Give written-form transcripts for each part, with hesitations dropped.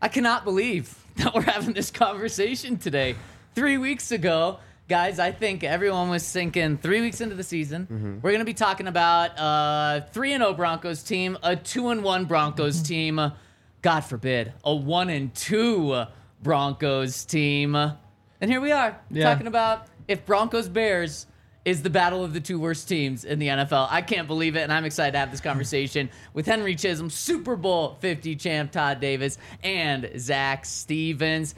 I cannot believe that we're having this conversation today. 3 weeks ago, guys, I think everyone was thinking 3 weeks into the season, we're going to be talking about a 3-0 Broncos team, a 2-1 Broncos team, God forbid, a 1-2 Broncos team. And here we are talking about if Broncos Bears is the battle of the two worst teams in the NFL. I can't believe it, and I'm excited to have this conversation with Henry Chisholm, Super Bowl 50 champ Todd Davis, and Zach Stevens.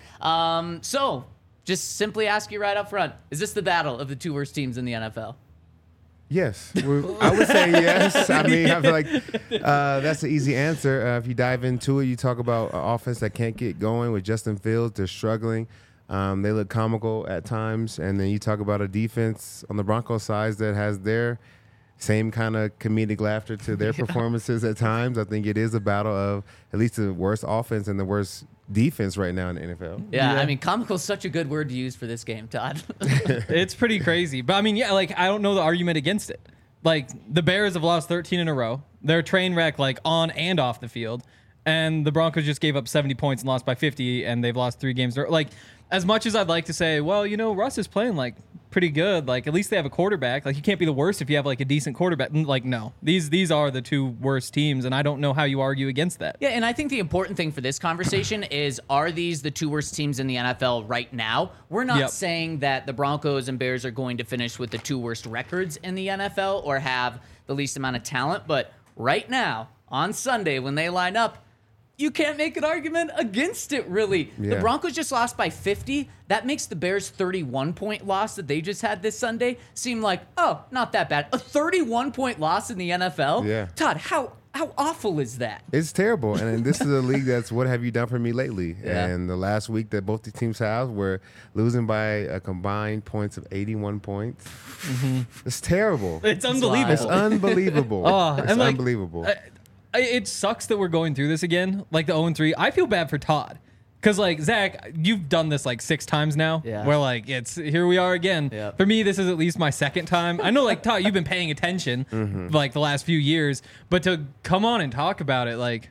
So, just simply ask you right up front, is this the battle of the two worst teams in the NFL? Yes. I would say yes. I mean, I feel like that's an easy answer. If you dive into it, you talk about an offense that can't get going with Justin Fields. They're struggling. They look comical at times. And then you talk about a defense on the Broncos side that has their same kind of comedic laughter to their performances at times. I think it is a battle of at least the worst offense and the worst defense right now in the NFL. Yeah, I mean, comical is such a good word to use for this game, Todd. It's pretty crazy. But, I mean, yeah, like, I don't know the argument against it. Like, the Bears have lost 13 in a row. They're a train wreck, like, on and off the field. And the Broncos just gave up 70 points and lost by 50, and they've lost 3 games. Like, as much as I'd like to say, well, you know, Russ is playing, like, pretty good. Like, at least they have a quarterback. Like, you can't be the worst if you have, like, a decent quarterback. Like, no. These are the two worst teams, and I don't know how you argue against that. Yeah, and I think the important thing for this conversation is, are these the two worst teams in the NFL right now? We're not saying that the Broncos and Bears are going to finish with the 2 worst records in the NFL or have the least amount of talent, but right now, on Sunday, when they line up, you can't make an argument against it, really. Yeah. The Broncos just lost by 50. That makes the Bears' 31-point loss that they just had this Sunday seem like, oh, not that bad. A 31-point loss in the NFL? Yeah. Todd, how awful is that? It's terrible. And this is a league that's what have you done for me lately? Yeah. And the last week that both the teams have were losing by a combined points of 81 points. It's terrible. It's unbelievable. It's unbelievable. It's and, like, unbelievable. It sucks that we're going through this again, like the 0-3. I feel bad for Todd. Because, like, Zach, you've done this, like, 6 times now. Yeah. Where, like, here we are again. Yeah. For me, this is at least my 2nd time. I know, like, Todd, you've been paying attention, like, the last few years. But to come on and talk about it, like,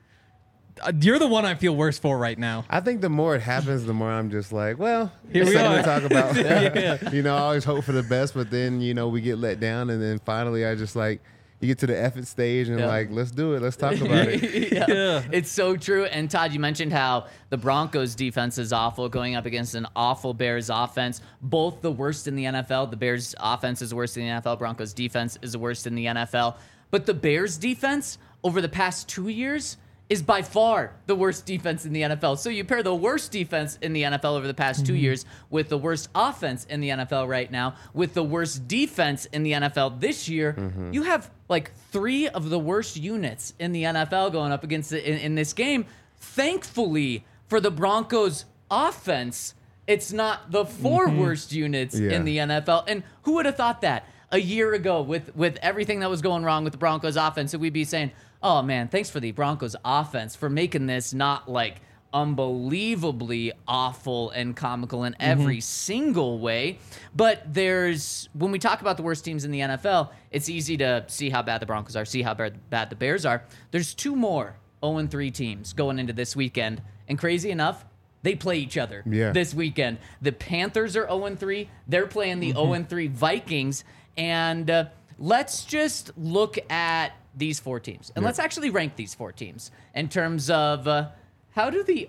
you're the one I feel worse for right now. I think the more it happens, the more I'm just like, well, Here we something are. to talk about. Yeah. You know, I always hope for the best, but then, you know, we get let down. And then finally, I just like, you get to the effort stage and like, let's do it. Let's talk about it. Yeah. It's so true. And Todd, you mentioned how the Broncos defense is awful going up against an awful Bears offense. Both the worst in the NFL. The Bears offense is the worst in the NFL. Broncos defense is the worst in the NFL. But the Bears defense over the past 2 years is by far the worst defense in the NFL. So you pair the worst defense in the NFL over the past 2 years with the worst offense in the NFL right now, with the worst defense in the NFL this year, you have like 3 of the worst units in the NFL going up against it in this game. Thankfully for the Broncos offense, it's not the 4 worst units in the NFL. And who would have thought that a year ago with everything that was going wrong with the Broncos offense? So we'd be saying, oh man, thanks for the Broncos offense for making this not like unbelievably awful and comical in every single way. But when we talk about the worst teams in the NFL, it's easy to see how bad the Broncos are, see how bad the Bears are. There's 2 more 0-3 teams going into this weekend. And crazy enough, they play each other this weekend. The Panthers are 0-3. They're playing the 0-3 Vikings. And let's just look at these 4 teams. And let's actually rank these 4 teams in terms of how do the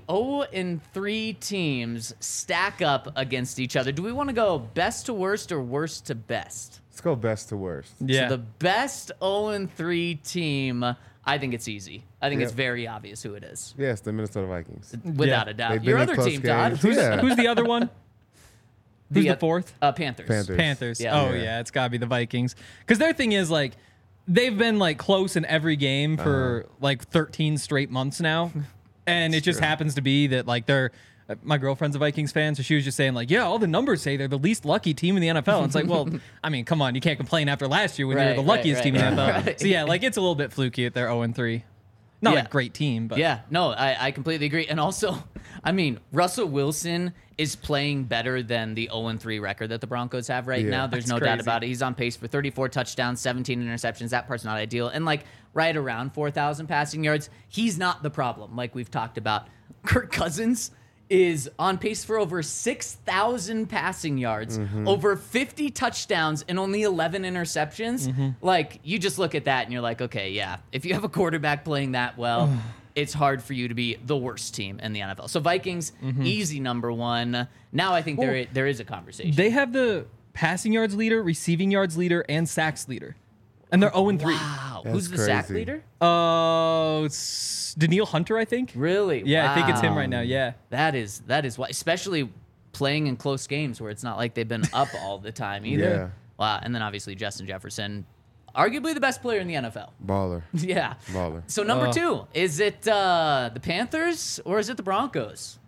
0-3 teams stack up against each other? Do we want to go best to worst or worst to best? Let's go best to worst. Yeah. So the best 0-3 team, I think it's easy. I think it's very obvious who it is. Yes, the Minnesota Vikings. Without a doubt. They've Your been in other close team, Todd. games. Yeah. Who's the other one? Who's the 4th? Panthers. Panthers. Yeah. Oh, yeah, it's got to be the Vikings. Because their thing is, like, they've been, like, close in every game for, like, 13 straight months now. And it just happens to be that, like, they're... My girlfriend's a Vikings fan, so she was just saying, like, yeah, all the numbers say they're the least lucky team in the NFL. And it's like, well, I mean, come on, you can't complain after last year when you were the luckiest team in the NFL. So, yeah, like, it's a little bit fluky at their 0-3. Not Yeah. a great team, but Yeah, no, I completely agree. And also, I mean, Russell Wilson is playing better than the 0-3 record that the Broncos have right Yeah. now. There's That's no doubt crazy. about it. He's on pace for 34 touchdowns, 17 interceptions. That part's not ideal. And like right around 4,000 passing yards. He's not the problem, like we've talked about. Kirk Cousins is on pace for over 6,000 passing yards, over 50 touchdowns, and only 11 interceptions. Like, you just look at that and you're like, okay, yeah, if you have a quarterback playing that well, it's hard for you to be the worst team in the NFL. So Vikings, easy number one. Now I think there is a conversation. they have the passing yards leader, receiving yards leader, and sacks leader. And they're 0-3. Wow. That's Who's the sack crazy. leader? It's Daniil Hunter, I think. Really? Yeah, I think it's him Wow. right now. Yeah. That is why, especially playing in close games where it's not like they've been up all the time either. Yeah. Wow. And then obviously Justin Jefferson, arguably the best player in the NFL. Baller. Yeah. Baller. So number two, is it the Panthers or is it the Broncos?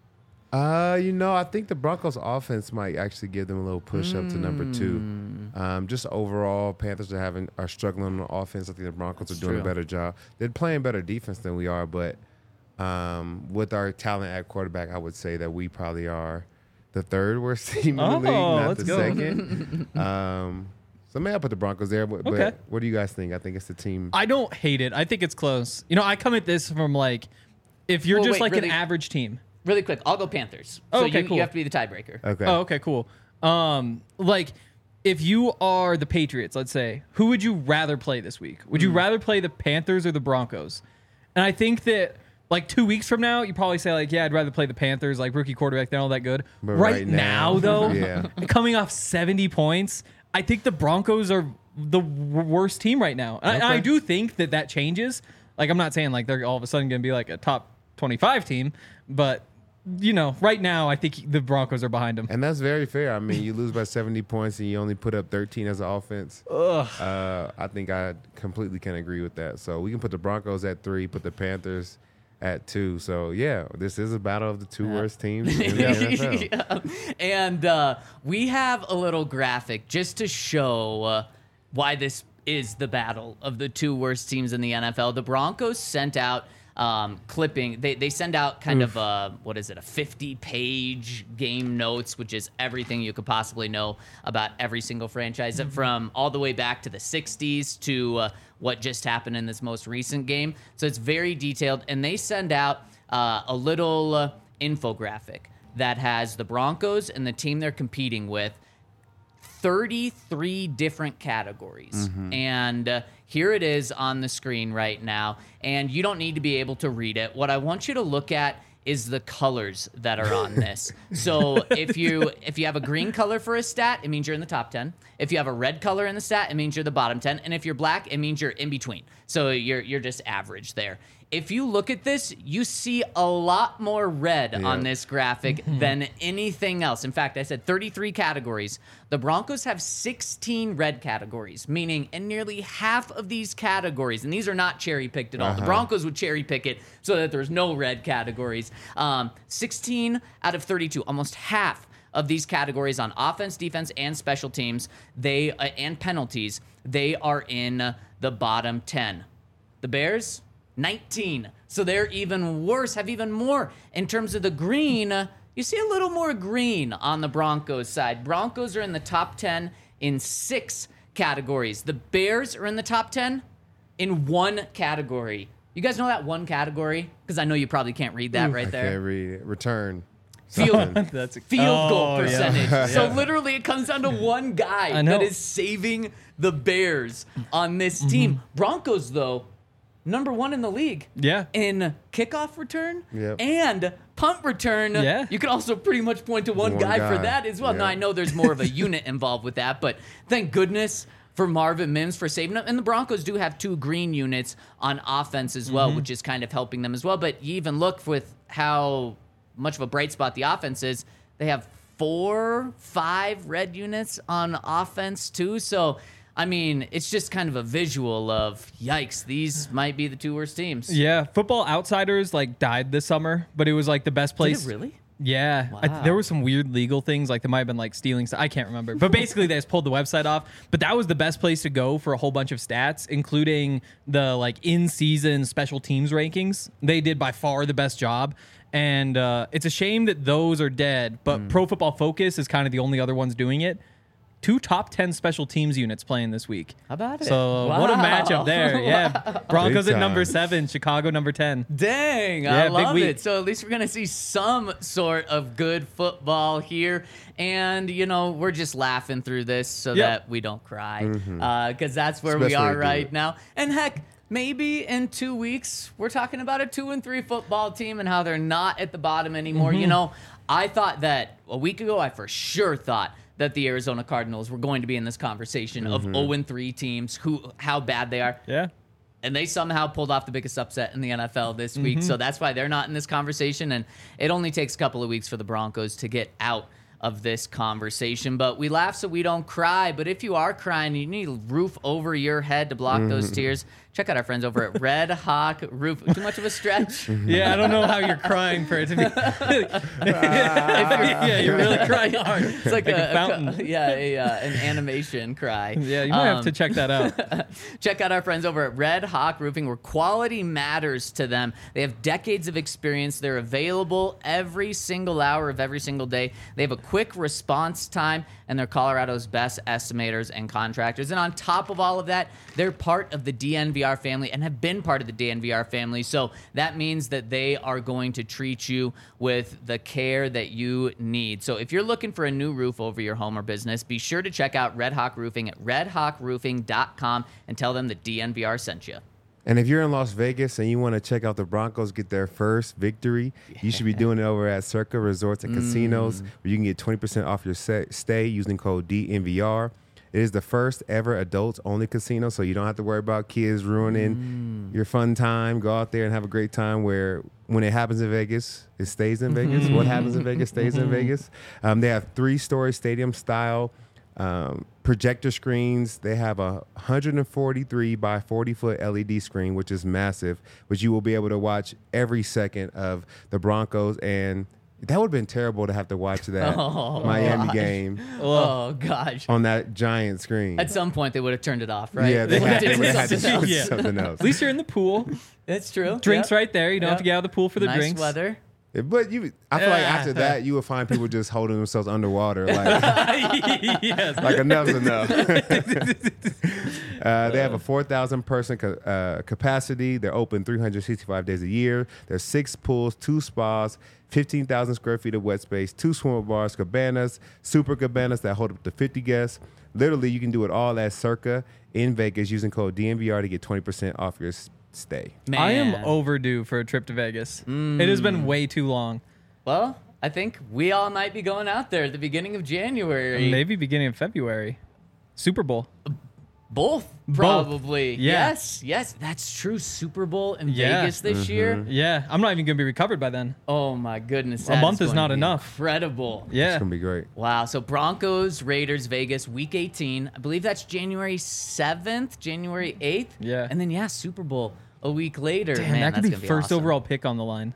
I think the Broncos offense might actually give them a little push up to number two. Just overall, Panthers are struggling on offense. I think the Broncos are doing true. a better job. They're playing better defense than we are, but with our talent at quarterback, I would say that we probably are the third worst team in the league, not let's the go. second. So maybe I'll put the Broncos there, but Okay. what do you guys think? I think it's the team. I don't hate it. I think it's close. I come at this from like, if you're Well, just wait, like really? an average team. Really quick, I'll go Panthers. Oh, So okay, cool. you have to be the tiebreaker. Okay. Oh, okay, cool. Like, if you are the Patriots, let's say, who would you rather play this week? Would you rather play the Panthers or the Broncos? And I think that like 2 weeks from now, you probably say like, yeah, I'd rather play the Panthers, like rookie quarterback, they're all that good. But Right now, though, yeah. coming off 70 points, I think the Broncos are the worst team right now. And I Okay. do think that changes. Like, I'm not saying like they're all of a sudden going to be like a top 25 team, but right now, I think the Broncos are behind them. And that's very fair. I mean, you lose by 70 points and you only put up 13 as an offense. I think I completely can agree with that. So we can put the Broncos at 3, put the Panthers at 2. So, yeah, this is a battle of the two worst teams in the NFL. Yeah. And we have a little graphic just to show why this is the battle of the two worst teams in the NFL. The Broncos sent out clipping. They send out kind of a 50-page game notes, which is everything you could possibly know about every single franchise, from all the way back to the 60s to what just happened in this most recent game. So it's very detailed, and they send out a little infographic that has the Broncos and the team they're competing with, 33 different categories. And here it is on the screen right now. And you don't need to be able to read it. What I want you to look at is the colors that are on this. So if you have a green color for a stat, it means you're in the top 10. If you have a red color in the stat, it means you're the bottom 10. And if you're black, it means you're in between. So you're just average there. If you look at this, you see a lot more red on this graphic than anything else. In fact, I said 33 categories. The Broncos have 16 red categories, meaning in nearly half of these categories, and these are not cherry-picked at all. The Broncos would cherry-pick it so that there's no red categories. 16 out of 32, almost half of these categories on offense, defense, and special teams, and penalties, they are in the bottom 10. The Bears, 19. So they're even worse, have even more. In terms of the green, you see a little more green on the Broncos side. Broncos are in the top 10 in 6 categories. The Bears are in the top 10 in 1 category. You guys know that one category? Because I know you probably can't read that right I there. can't read it. Return. Field, That's field goal Oh, yeah. percentage. So literally it comes down to one guy I know. that is saving the Bears on this team. Broncos, though, number 1 in the league. Yeah. In kickoff return Yep. and punt return. Yeah. You can also pretty much point to one One guy for guy. that as well. Now, Yeah. I know there's more of a unit involved with that, but thank goodness for Marvin Mims for saving them. And the Broncos do have 2 green units on offense as well, which is kind of helping them as well. But you even look with how much of a bright spot the offense is. They have 4, 5 red units on offense too. So, I mean, it's just kind of a visual of, yikes, these might be the 2 worst teams. Yeah, Football Outsiders like died this summer, but it was like the best place. Did it really? Yeah, Wow. there were some weird legal things, like there might have been like stealing stuff. I can't remember, but basically they just pulled the website off. But that was the best place to go for a whole bunch of stats, including the like in-season special teams rankings. They did by far the best job, and it's a shame that those are dead. But Pro Football Focus is kind of the only other ones doing it. 2 top 10 special teams units playing this week. How about it? So what a Wow. matchup there. Yeah. Broncos Big at number time. 7, Chicago number 10. Dang, Yeah, I big love week. it. So at least we're going to see some sort of good football here. And, you know, we're just laughing through this so Yep. that we don't cry. Because that's where we Especially are to do right it. now. And heck, maybe in 2 weeks, we're talking about a 2-3 football team and how they're not at the bottom anymore. You know, I thought that a week ago, I for sure thought that the Arizona Cardinals were going to be in this conversation of 0-3 teams, how bad they are. Yeah. And they somehow pulled off the biggest upset in the NFL this week. So that's why they're not in this conversation. And it only takes a couple of weeks for the Broncos to get out of this conversation. But we laugh so we don't cry. But if you are crying, you need a roof over your head to block those tears. Check out our friends over at Red Hawk Roof. Too much of a stretch? Yeah, I don't know how you're crying for it to be. Yeah, you're really crying hard. It's like, a fountain. an animation cry. Yeah, you might have to check that out. Check out our friends over at Red Hawk Roofing, where quality matters to them. They have decades of experience. They're available every single hour of every single day. They have a quick response time, and they're Colorado's best estimators and contractors. And on top of all of that, they're part of the DNVR family and have been part of the DNVR family. So that means that they are going to treat you with the care that you need. So if you're looking for a new roof over your home or business, be sure to check out Red Hawk Roofing at redhawkroofing.com and tell them that DNVR sent you. And if you're in Las Vegas and you want to check out the Broncos get their first victory, you should be doing it over at Circa Resorts and Casinos, where you can get 20% off your stay using code DNVR. It is the first ever adults-only casino, so you don't have to worry about kids ruining your fun time. Go out there and have a great time where when it happens in Vegas, it stays in Vegas. What happens in Vegas stays in Vegas. They have 3-story stadium-style projector screens. They have a 143 by 40-foot LED screen, which is massive, which you will be able to watch every second of the Broncos. And that would have been terrible to have to watch that Miami game Oh, gosh. on that giant screen. At some point, they would have turned it off, right? Yeah, they would have had to Something do else. something else. At least you're in the pool. It's true. Drinks Yep. right there. You don't have to get out of the pool for the Nice drinks. weather. But I feel like after that, you would find people just holding themselves underwater, like Yes. like enough's enough. They have a 4,000 person capacity. They're open 365 days a year. There's 6 pools, 2 spas, 15,000 square feet of wet space, 2 swim bars, cabanas, super cabanas that hold up to 50 guests. Literally, you can do it all at Circa in Vegas using code DNVR to get 20% off your stay. Man. I am overdue for a trip to Vegas. It has been way too long. Well, I think we all might be going out there at the beginning of January. Maybe beginning of February. Super Bowl. Both, probably. Yeah. Yes, that's true. Super Bowl in Yeah. Vegas this year. Yeah, I'm not even going to be recovered by then. Oh, my goodness. A that month is going not to be enough. Incredible. It's Yeah. gonna be great. Wow. So Broncos, Raiders, Vegas, week 18. I believe that's January 7th, January 8th. Yeah. And then, Super Bowl a week later. Damn, Man, that could that's be gonna first awesome. overall pick on the line.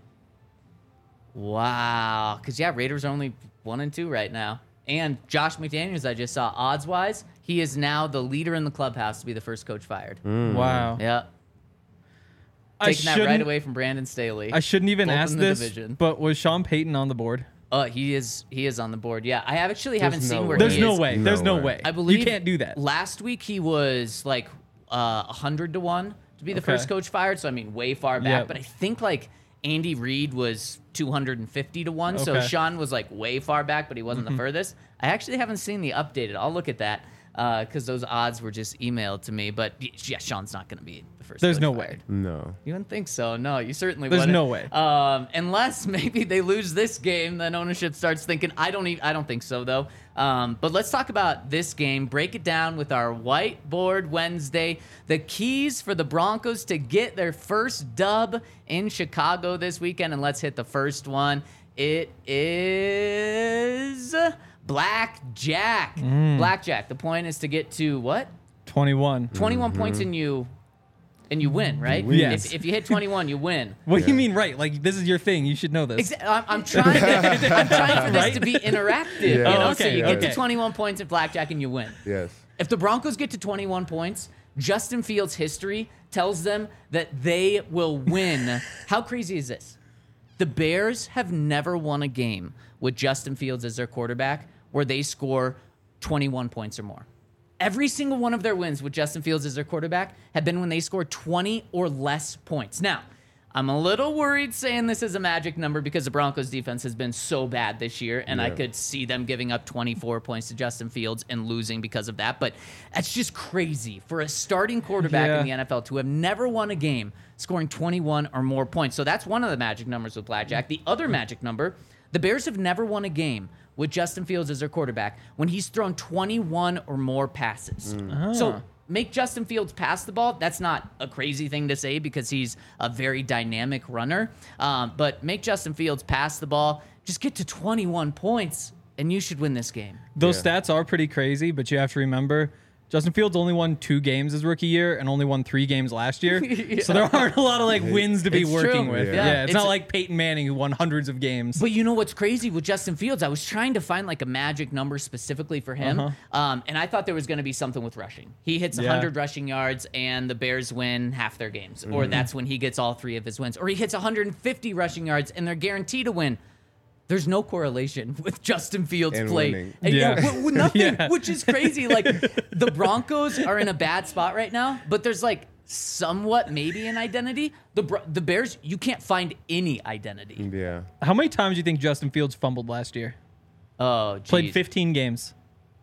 Wow. Because, Raiders are only 1-2 right now. And Josh McDaniels, I just saw odds-wise, he is now the leader in the clubhouse to be the first coach fired. Wow. Yeah. I Taking that right shouldn't- away from Brandon Staley. I shouldn't even Both ask in the this, division. but was Sean Payton on the board? He is on the board. Yeah. I haven't There's seen no where way. he There's is. no way. No There's no way. way. I believe you can't do that. Last week he was like 100 to 1 to be the Okay. first coach fired. So I mean, way far back. Yep. But I think like Andy Reid was 250 to 1. So Okay. Sean was like way far back, but he wasn't the furthest. I actually haven't seen the updated. I'll look at that because those odds were just emailed to me. But yeah, Sean's not going to be the first. There's coach no fired. way. No. You wouldn't think so. No, you certainly There's wouldn't. no way. Unless maybe they lose this game, then ownership starts thinking. I don't think so though. But let's talk about this game. Break it down with our Whiteboard Wednesday. The keys for the Broncos to get their first dub in Chicago this weekend, and let's hit the first one. It is Blackjack. Blackjack. The point is to get to what? 21. 21 points, and you and you win, right? Yes. If you hit 21, you win. What do you mean, right? Like, this is your thing. You should know this. I'm trying for this to be interactive. Yeah. You know? Oh, So okay, you get okay. to 21 points in blackjack and you win. Yes. If the Broncos get to 21 points, Justin Fields' history tells them that they will win. How crazy is this? The Bears have never won a game with Justin Fields as their quarterback where they score 21 points or more. Every single one of their wins with Justin Fields as their quarterback have been when they scored 20 or less points. Now, I'm a little worried saying this is a magic number because the Broncos defense has been so bad this year, and I could see them giving up 24 points to Justin Fields and losing because of that. But that's just crazy for a starting quarterback in the NFL to have never won a game scoring 21 or more points. So that's one of the magic numbers with blackjack. The other magic number, the Bears have never won a game with Justin Fields as their quarterback when he's thrown 21 or more passes. So make Justin Fields pass the ball. That's not a crazy thing to say because he's a very dynamic runner. But make Justin Fields pass the ball. Just get to 21 points, and you should win this game. Those stats are pretty crazy, but you have to remember Justin Fields only won 2 games his rookie year and only won 3 games last year. So there aren't a lot of wins to be It's working true. with. Yeah. Yeah, it's not like Peyton Manning who won hundreds of games. But you know what's crazy with Justin Fields? I was trying to find like a magic number specifically for him, and I thought there was going to be something with rushing. He hits 100 rushing yards, and the Bears win half their games, or that's when he gets all 3 of his wins. Or he hits 150 rushing yards, and they're guaranteed to win. There's no correlation with Justin Fields' And play. winning. And Yeah. nothing, which is crazy. Like, the Broncos are in a bad spot right now, but there's like somewhat maybe an identity. The Bears, you can't find any identity. Yeah. How many times do you think Justin Fields fumbled last year? Oh, geez. Played 15 games.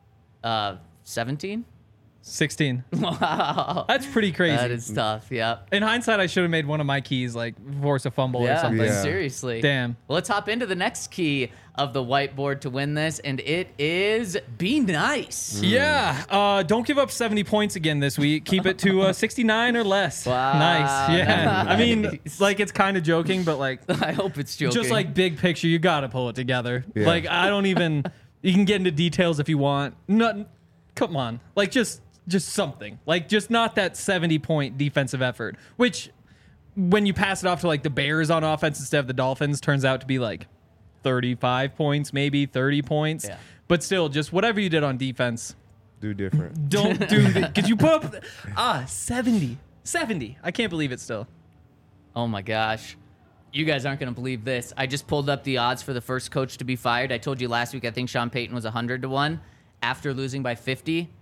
17? 16. Wow. That's pretty crazy. That is tough, yep. In hindsight, I should have made one of my keys like force a fumble or something. Yeah. Seriously. Damn. Well, let's hop into the next key of the whiteboard to win this, and it is be nice. Yeah. Don't give up 70 points again this week. Keep it to 69 or less. Wow. Nice. Yeah. I mean, Nice. like, it's kind of joking, but like, I hope it's joking. just like big picture, you got to pull it together. Yeah. Like, I don't even, you can get into details if you want. Come on. Like, just something. Like, just not that 70-point defensive effort, which when you pass it off to like the Bears on offense instead of the Dolphins turns out to be like 35 points, maybe 30 points. Yeah. But still, just whatever you did on defense, Do different. don't do that. Because you put up 70. I can't believe it still. Oh my gosh. You guys aren't going to believe this. I just pulled up the odds for the first coach to be fired. I told you last week I think Sean Payton was 100-1 after losing by 50.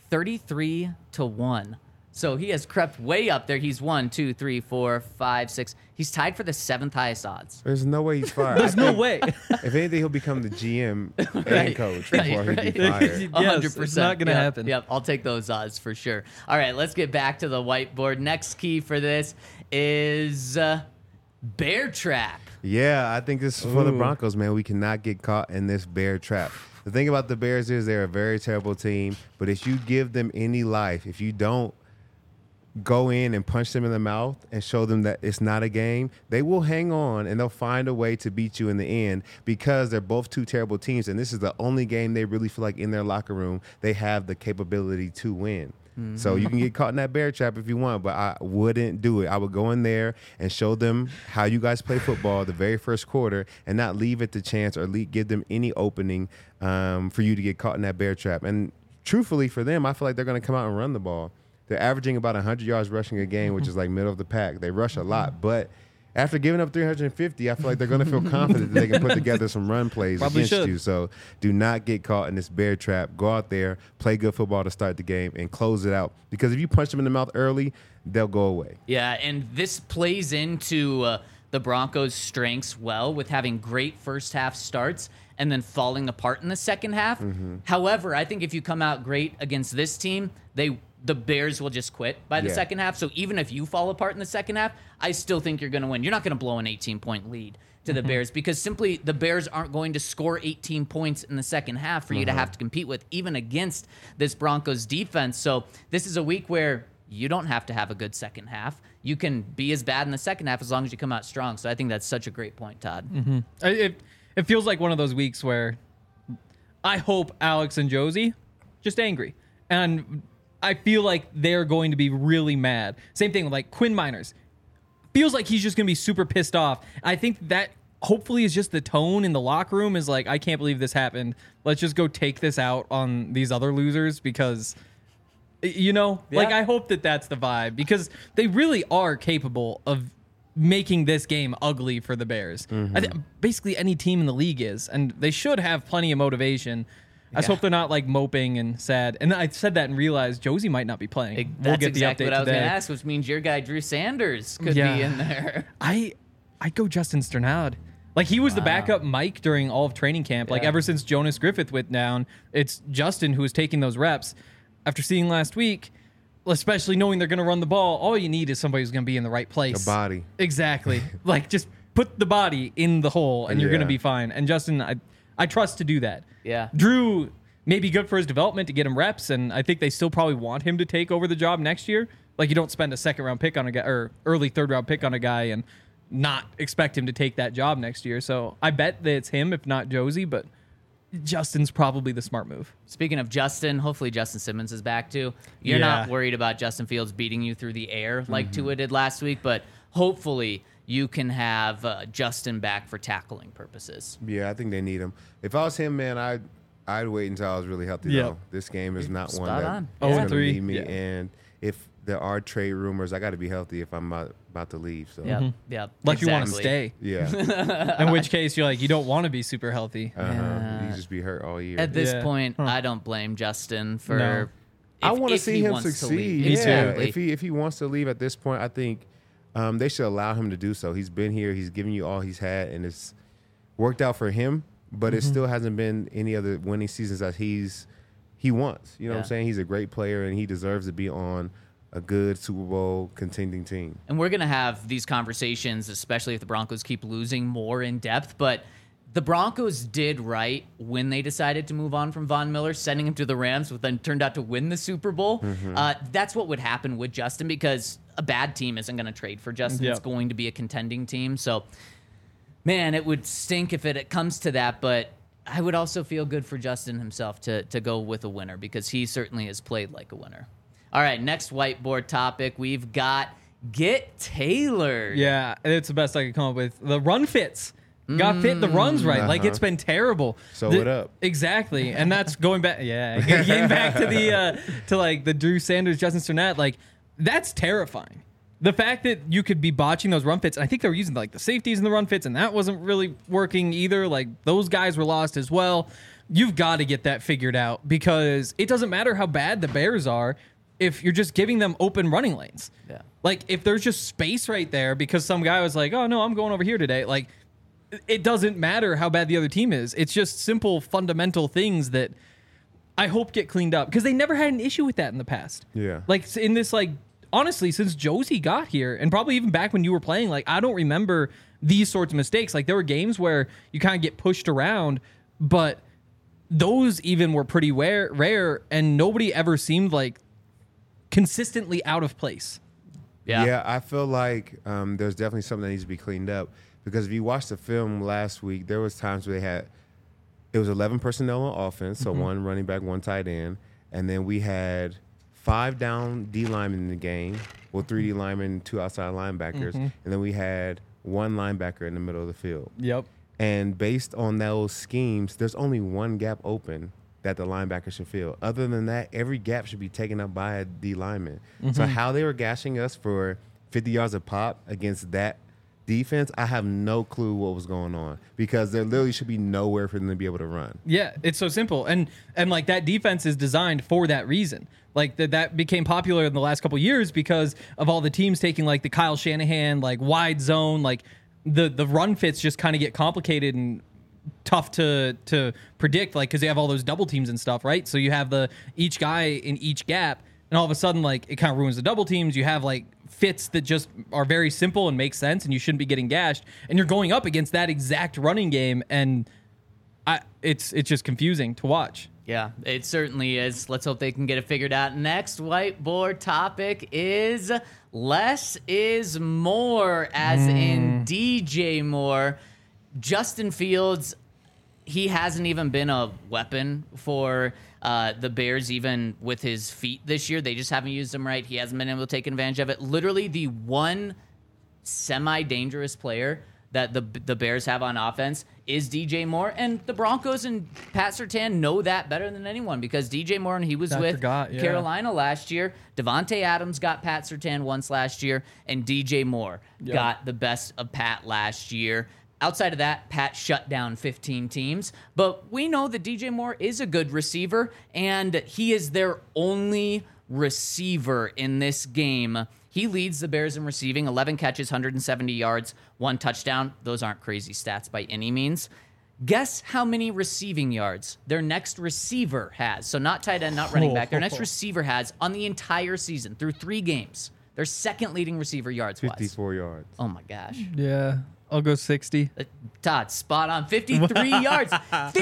33-1. So he has crept way up there. He's 1, 2, 3, 4, 5, 6. He's tied for the 7th highest odds. There's no way he's fired. There's no way. If anything, he'll become the GM and Right, coach right, before he'd be right. fired. Yes, it's not going to Yep, happen. Yep, I'll take those odds for sure. All right, let's get back to the whiteboard. Next key for this is bear trap. Yeah, I think this is for the Broncos, man. We cannot get caught in this bear trap. The thing about the Bears is they're a very terrible team, but if you give them any life, if you don't go in and punch them in the mouth and show them that it's not a game, they will hang on and they'll find a way to beat you in the end because they're both 2 terrible teams, and this is the only game they really feel like in their locker room they have the capability to win. So you can get caught in that bear trap if you want, but I wouldn't do it. I would go in there and show them how you guys play football the very first quarter and not leave it to chance or give them any opening for you to get caught in that bear trap. And truthfully for them, I feel like they're going to come out and run the ball. They're averaging about 100 yards rushing a game, which is like middle of the pack. They rush a lot, but after giving up 350, I feel like they're going to feel confident that they can put together some run plays Probably against should. you. So do not get caught in this bear trap. Go out there, play good football to start the game, and close it out. Because if you punch them in the mouth early, they'll go away. Yeah, and this plays into the Broncos' strengths well with having great first half starts and then falling apart in the second half. However, I think if you come out great against this team, the Bears will just quit by the Yeah. second half. So even if you fall apart in the second half, I still think you're going to win. You're not going to blow an 18-point lead to the Bears because simply the Bears aren't going to score 18 points in the second half for you to have to compete with, even against this Broncos defense. So this is a week where you don't have to have a good second half. You can be as bad in the second half as long as you come out strong. So I think that's such a great point, Todd. It feels like one of those weeks where I hope Alex and Josie just angry. And I feel like they're going to be really mad. Same thing with like Quinn Miners. Feels like he's just going to be super pissed off. I think that hopefully is just the tone in the locker room is like, I can't believe this happened. Let's just go take this out on these other losers because, like I hope that that's the vibe because they really are capable of making this game ugly for the Bears. Basically any team in the league is, and they should have plenty of motivation. I just hope they're not like moping and sad. And I said that and realized Josie might not be playing. That's exactly what I was going to ask, which means your guy Drew Sanders could be in there. I'd go Justin Sternad. Like he was the backup Mike during all of training camp. Like ever since Jonas Griffith went down, it's Justin who is taking those reps. After seeing last week, especially knowing they're going to run the ball, all you need is somebody who's going to be in the right place. A body. Exactly. Like just put the body in the hole and you're going to be fine. And Justin, I trust to do that. Yeah. Drew may be good for his development to get him reps, and I think they still probably want him to take over the job next year. Like you don't spend a second-round pick on a guy or early third-round pick on a guy and not expect him to take that job next year. So I bet that it's him, if not Josie, but Justin's probably the smart move. Speaking of Justin, hopefully Justin Simmons is back too. You're not worried about Justin Fields beating you through the air like Tua did last week, but hopefully you can have Justin back for tackling purposes. Yeah, I think they need him. If I was him, man, I'd wait until I was really healthy. Though this game is not one that is going to need me. And if there are trade rumors, I got to be healthy if I'm about to leave. So yeah, like you want to stay. Yeah. In which case you're like you don't want to be super healthy. You just be hurt all year. At this point, I don't blame Justin for. No. I want to see him succeed. If he wants to leave at this point, I think they should allow him to do so. He's been here. He's given you all he's had, and it's worked out for him. But it still hasn't been any other winning seasons that he wants. You know what I'm saying? He's a great player, and he deserves to be on a good Super Bowl contending team. And we're going to have these conversations, especially if the Broncos keep losing, more in depth. But the Broncos did right when they decided to move on from Von Miller, sending him to the Rams, but then turned out to win the Super Bowl. That's what would happen with Justin because a bad team isn't going to trade for Justin. It's going to be a contending team. So, man, it would stink if it comes to that. But I would also feel good for Justin himself to go with a winner because he certainly has played like a winner. All right, next whiteboard topic. We've got Get Tailored. Yeah, it's the best I could come up with. The run fits. Got fit the runs right. Like it's been terrible. Sew it up. Exactly. And that's going back getting back to the to like the Drew Sanders, Justin Sternad, like that's terrifying. The fact that you could be botching those run fits, and I think they were using like the safeties in the run fits, and that wasn't really working either. Like those guys were lost as well. You've got to get that figured out because it doesn't matter how bad the Bears are if you're just giving them open running lanes. Yeah. Like if there's just space right there because some guy was like, oh no, I'm going over here today. Like it doesn't matter how bad the other team is. It's just simple, fundamental things that I hope get cleaned up because they never had an issue with that in the past. Yeah. Like in this, like, honestly, since Josie got here and probably even back when you were playing, like, I don't remember these sorts of mistakes. Like there were games where you kind of get pushed around, but those even were pretty rare and nobody ever seemed like consistently out of place. Yeah, I feel like there's definitely something that needs to be cleaned up. Because if you watched the film last week, there was times where it was 11 personnel on offense, so one running back, one tight end, and then we had 5 down D linemen in the game, 3 D linemen, 2 outside linebackers, and then we had 1 linebacker in the middle of the field. Yep. And based on those schemes, there's only 1 gap open that the linebacker should fill. Other than that, every gap should be taken up by a D lineman. So how they were gashing us for 50 yards a pop against that defense, I have no clue what was going on because there literally should be nowhere for them to be able to run. Yeah, it's so simple. And like that defense is designed for that reason. Like that became popular in the last couple of years because of all the teams taking like the Kyle Shanahan, like wide zone, like the run fits just kind of get complicated and tough to predict, like because they have all those double teams and stuff, right? So you have each guy in each gap, and all of a sudden like it kind of ruins the double teams. You have like fits that just are very simple and make sense, and you shouldn't be getting gashed. And you're going up against that exact running game, and it's just confusing to watch. Yeah, it certainly is. Let's hope they can get it figured out. Next whiteboard topic is less is more, as in DJ Moore. Justin Fields, he hasn't even been a weapon for the Bears, even with his feet this year. They just haven't used him right. He hasn't been able to take advantage of it. Literally, the one semi-dangerous player that the Bears have on offense is DJ Moore, and the Broncos and Pat Surtain know that better than anyone because DJ Moore, and he was with Carolina last year. Devontae Adams got Pat Surtain once last year, and DJ Moore got the best of Pat last year. Outside of that, Pat shut down 15 teams, but we know that DJ Moore is a good receiver, and he is their only receiver in this game. He leads the Bears in receiving, 11 catches, 170 yards, 1 touchdown. Those aren't crazy stats by any means. Guess how many receiving yards their next receiver has. So not tight end, not running back. Their next receiver has on the entire season through 3 games. Their second leading receiver yards-wise. 54 yards. Oh, my gosh. Yeah. I'll go 60. Todd, spot on. 53 yards.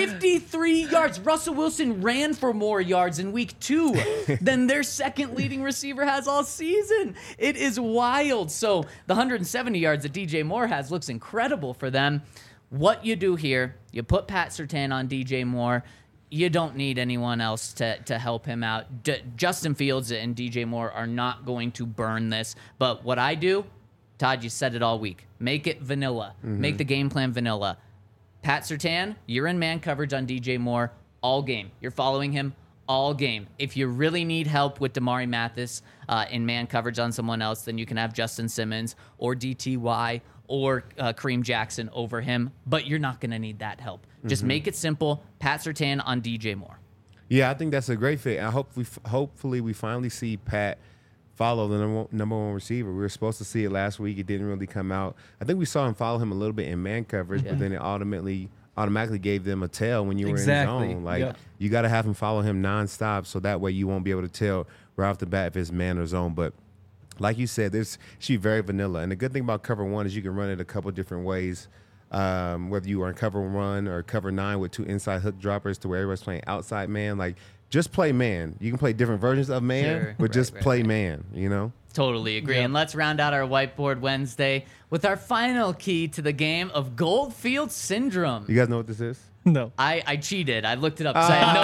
53 yards. Russell Wilson ran for more yards in week 2 than their second leading receiver has all season. It is wild. So the 170 yards that DJ Moore has looks incredible for them. What you do here, you put Pat Surtain on DJ Moore. You don't need anyone else to help him out. Justin Fields and DJ Moore are not going to burn this. But what I do, Todd, you said it all week. Make it vanilla. Make the game plan vanilla. Pat Surtain, you're in man coverage on DJ Moore all game. You're following him all game. If you really need help with Damari Mathis in man coverage on someone else, then you can have Justin Simmons or DTY or Kareem Jackson over him. But you're not going to need that help. Just make it simple. Pat Surtain on DJ Moore. Yeah, I think that's a great fit. I hopefully we finally see Pat follow the number one receiver. We were supposed to see it last week. It didn't really come out. I think we saw him follow him a little bit in man coverage, but then it automatically gave them a tail when you were in zone. Like you got to have him follow him nonstop, so that way you won't be able to tell right off the bat if it's man or zone. But like you said, she's very vanilla. And the good thing about cover 1 is you can run it a couple different ways. Whether you are in cover 1 or cover 9 with 2 inside hook droppers to where everybody's playing outside man, like just play man. You can play different versions of man, but just play man, you know? Totally agree. And let's round out our Whiteboard Wednesday with our final key to the game of Goldfield Syndrome. You guys know what this is? No. I cheated. I looked it up because I had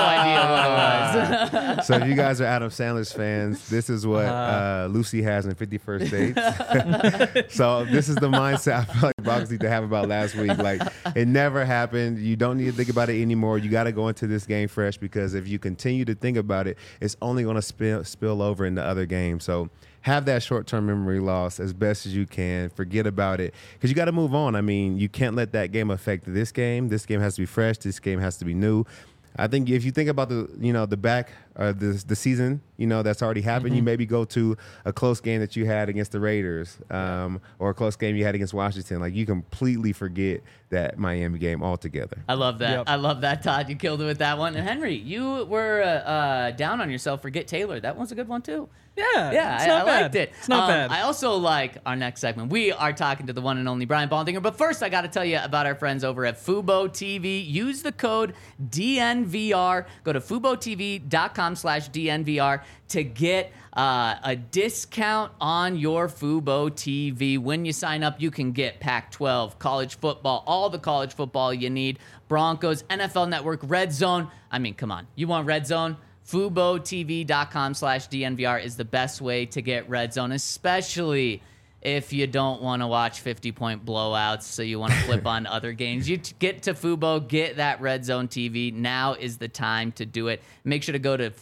no idea what it was. So if you guys are Adam Sandler's fans, this is what Lucy has in 51st Dates. So this is the mindset I feel like Broncos need to have about last week. Like, it never happened. You don't need to think about it anymore. You got to go into this game fresh because if you continue to think about it, it's only going to spill over into other games. So have that short-term memory loss as best as you can. Forget about it because you got to move on. I mean, you can't let that game affect this game. This game has to be fresh. This game has to be new. I think if you think about the season, that's already happened, you maybe go to a close game that you had against the Raiders or a close game you had against Washington. Like, you completely forget that Miami game altogether. I love that. Yep. I love that, Todd. You killed it with that one. And Henry, you were down on yourself for Get Taylor. That one's a good one, too. Yeah, I liked it. It's not bad. I also like our next segment. We are talking to the one and only Brian Baldinger. But first, I got to tell you about our friends over at Fubo TV. Use the code DNVR. Go to FuboTV.com/DNVR to get a discount on your Fubo TV. When you sign up, you can get Pac-12, college football, all the college football you need, Broncos, NFL Network, Red Zone. I mean, come on. You want Red Zone? FuboTV.com/DNVR is the best way to get Red Zone, especially if you don't want to watch 50-point blowouts, so you want to flip on other games. You get to Fubo, get that Red Zone TV. Now is the time to do it. Make sure to go to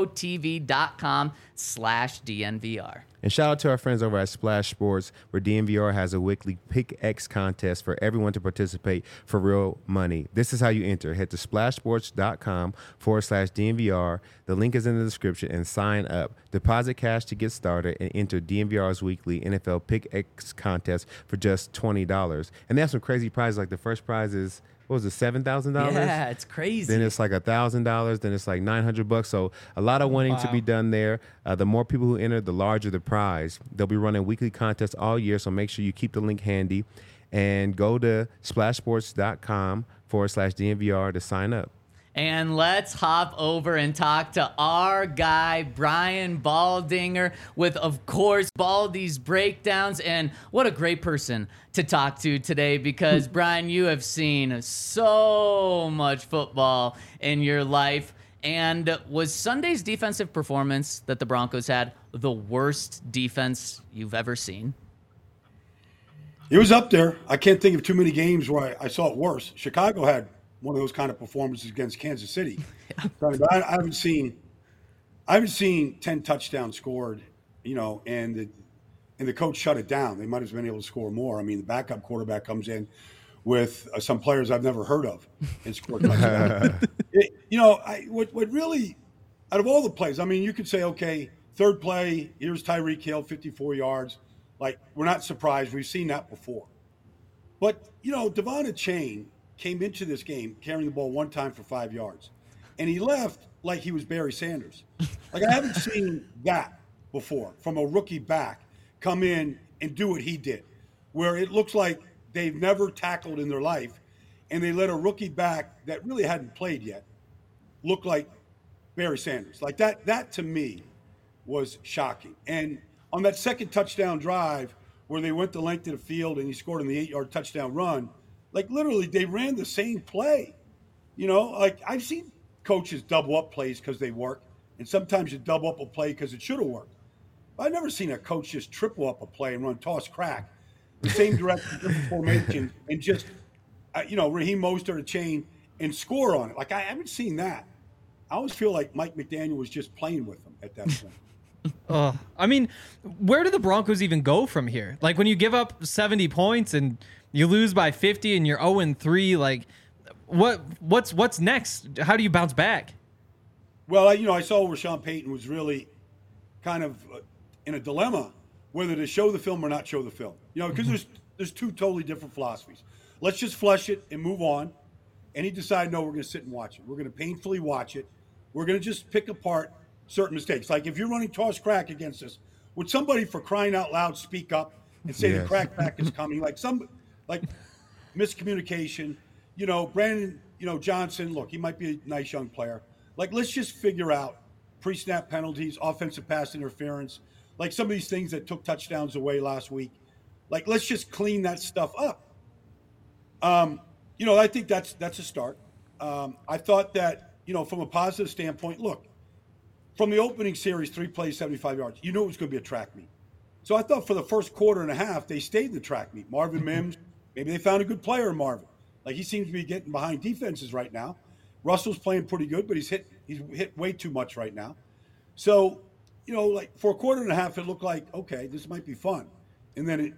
FuboTV.com/DNVR. And shout out to our friends over at Splash Sports, where DNVR has a weekly Pick X contest for everyone to participate for real money. This is how you enter. Head to splashsports.com/DNVR. The link is in the description and sign up. Deposit cash to get started and enter DNVR's weekly NFL Pick X contest for just $20. And they have some crazy prizes. Like the first prize is, what was it, $7,000? Yeah, it's crazy. Then it's like $1,000. Then it's like $900. So a lot of winning to be done there. The more people who enter, the larger the prize. They'll be running weekly contests all year, so make sure you keep the link handy and go to splashsports.com/DNVR to sign up. And let's hop over and talk to our guy, Brian Baldinger, with, of course, Baldy's breakdowns. And what a great person to talk to today, because, Brian, you have seen so much football in your life. And was Sunday's defensive performance that the Broncos had the worst defense you've ever seen? It was up there. I can't think of too many games where I saw it worse. Chicago had one of those kind of performances against Kansas City. But I haven't seen 10 touchdowns scored, and the coach shut it down. They might have been able to score more. I mean, the backup quarterback comes in with some players I've never heard of and scored touchdowns. What really, out of all the plays, I mean, you could say, okay, third play, here's Tyreek Hill, 54 yards. Like, we're not surprised. We've seen that before. But, Devon Achane came into this game carrying the ball one time for 5 yards. And he left like he was Barry Sanders. Like, I haven't seen that before from a rookie back come in and do what he did, where it looks like they've never tackled in their life, and they let a rookie back that really hadn't played yet look like Barry Sanders. Like, that to me was shocking. And on that second touchdown drive where they went the length of the field and he scored on the 8-yard touchdown run, like, literally, they ran the same play. Like, I've seen coaches double up plays because they work, and sometimes you double up a play because it should have worked. But I've never seen a coach just triple up a play and run toss crack, the same direction, different formation, and just, Raheem Mostert a chain and score on it. Like, I haven't seen that. I always feel like Mike McDaniel was just playing with them at that point. I mean, where do the Broncos even go from here? Like, when you give up 70 points and you lose by 50 and you're 0-3, like, what's next? How do you bounce back? Well, I saw where Sean Payton was really kind of in a dilemma whether to show the film or not show the film. Because there's two totally different philosophies. Let's just flush it and move on. And he decided, no, we're going to sit and watch it. We're going to painfully watch it. We're going to just pick apart certain mistakes. Like, if you're running toss crack against us, would somebody, for crying out loud, speak up and say the crack back is coming? Like miscommunication. Brandon, Johnson, look, he might be a nice young player. Like, let's just figure out pre-snap penalties, offensive pass interference, like some of these things that took touchdowns away last week. Like, let's just clean that stuff up. I think that's a start. I thought that, from a positive standpoint, look, from the opening series, 3 plays, 75 yards, you knew it was going to be a track meet. So I thought for the first quarter and a half, they stayed in the track meet. Marvin Mims, maybe they found a good player in Marvin. Like, he seems to be getting behind defenses right now. Russell's playing pretty good, but he's hit way too much right now. So, like, for a quarter and a half, it looked like, okay, this might be fun. And then,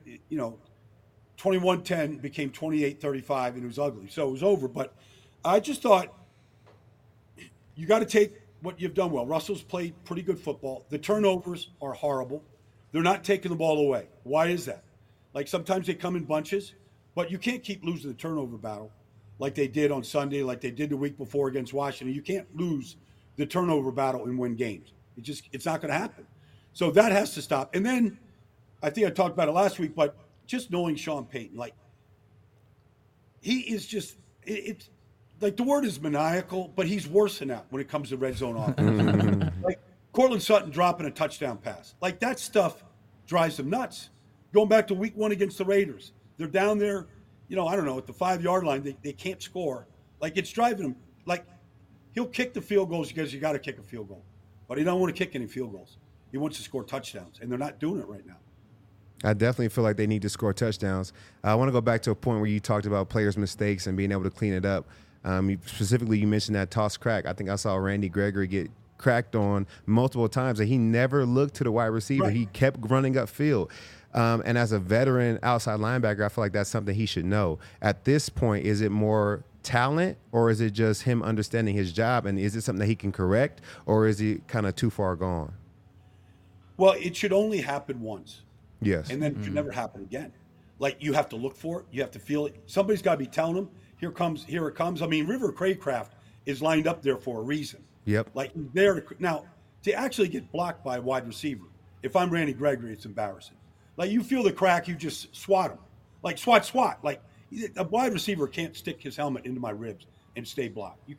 21-10 became 28-35, and it was ugly. So it was over. But I just thought you got to take what you've done well. Russell's played pretty good football. The turnovers are horrible. They're not taking the ball away. Why is that? Like, sometimes they come in bunches, but you can't keep losing the turnover battle like they did on Sunday, like they did the week before against Washington. You can't lose the turnover battle and win games. It's not going to happen. So that has to stop. And then I think I talked about it last week, but just knowing Sean Payton, like, he is just it's like, the word is maniacal, but he's worse than that when it comes to red zone offense. Like, Cortland Sutton dropping a touchdown pass. Like, that stuff drives them nuts. Going back to week 1 against the Raiders, they're down there, I don't know, at the 5-yard line. They can't score. Like, it's driving them. Like, he'll kick the field goals because you got to kick a field goal. But he don't want to kick any field goals. He wants to score touchdowns, and they're not doing it right now. I definitely feel like they need to score touchdowns. I want to go back to a point where you talked about players' mistakes and being able to clean it up. Specifically, you mentioned that toss crack. I think I saw Randy Gregory get cracked on multiple times, and he never looked to the wide receiver. Right. He kept running upfield. And as a veteran outside linebacker, I feel like that's something he should know. At this point, is it more talent, or is it just him understanding his job? And is it something that he can correct, or is he kind of too far gone? Well, it should only happen once. Yes. And then it should never happen again. Like, you have to look for it. You have to feel it. Somebody's got to be telling him, here it comes. I mean, River Craycraft is lined up there for a reason. Yep. Like, he's there to actually get blocked by a wide receiver. If I'm Randy Gregory, it's embarrassing. Like, you feel the crack, you just swat him. Like, swat. Like, a wide receiver can't stick his helmet into my ribs and stay blocked. You can't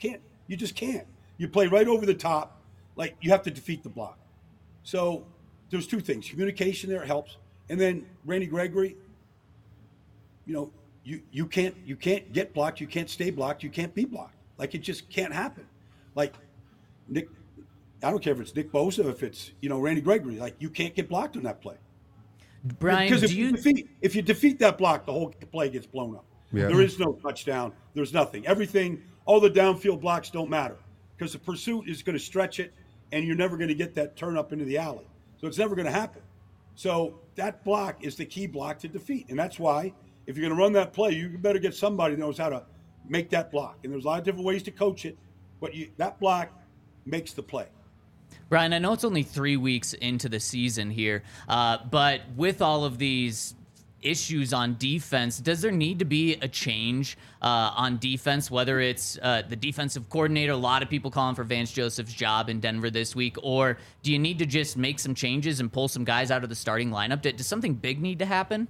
You just can't. You play right over the top. Like, you have to defeat the block. So there's two things. Communication there helps. And then Randy Gregory, you know, you can't get blocked. You can't stay blocked. You can't be blocked. Like, it just can't happen. Like, Nick, I don't care if it's Nick Bosa, if it's, you know, Randy Gregory. Like, you can't get blocked on that play. Brian, Because if you defeat that block, the whole play gets blown up. Yeah. There is no touchdown. There's nothing. Everything, all the downfield blocks don't matter because the pursuit is going to stretch it, and you're never going to get that turn up into the alley. So it's never going to happen. So that block is the key block to defeat, and that's why if you're going to run that play, you better get somebody that knows how to make that block. And there's a lot of different ways to coach it, but that block makes the play. Brian, I know it's only 3 weeks into the season here, but with all of these issues on defense, does there need to be a change on defense, whether it's the defensive coordinator? A lot of people calling for Vance Joseph's job in Denver this week, or do you need to just make some changes and pull some guys out of the starting lineup? Does something big need to happen?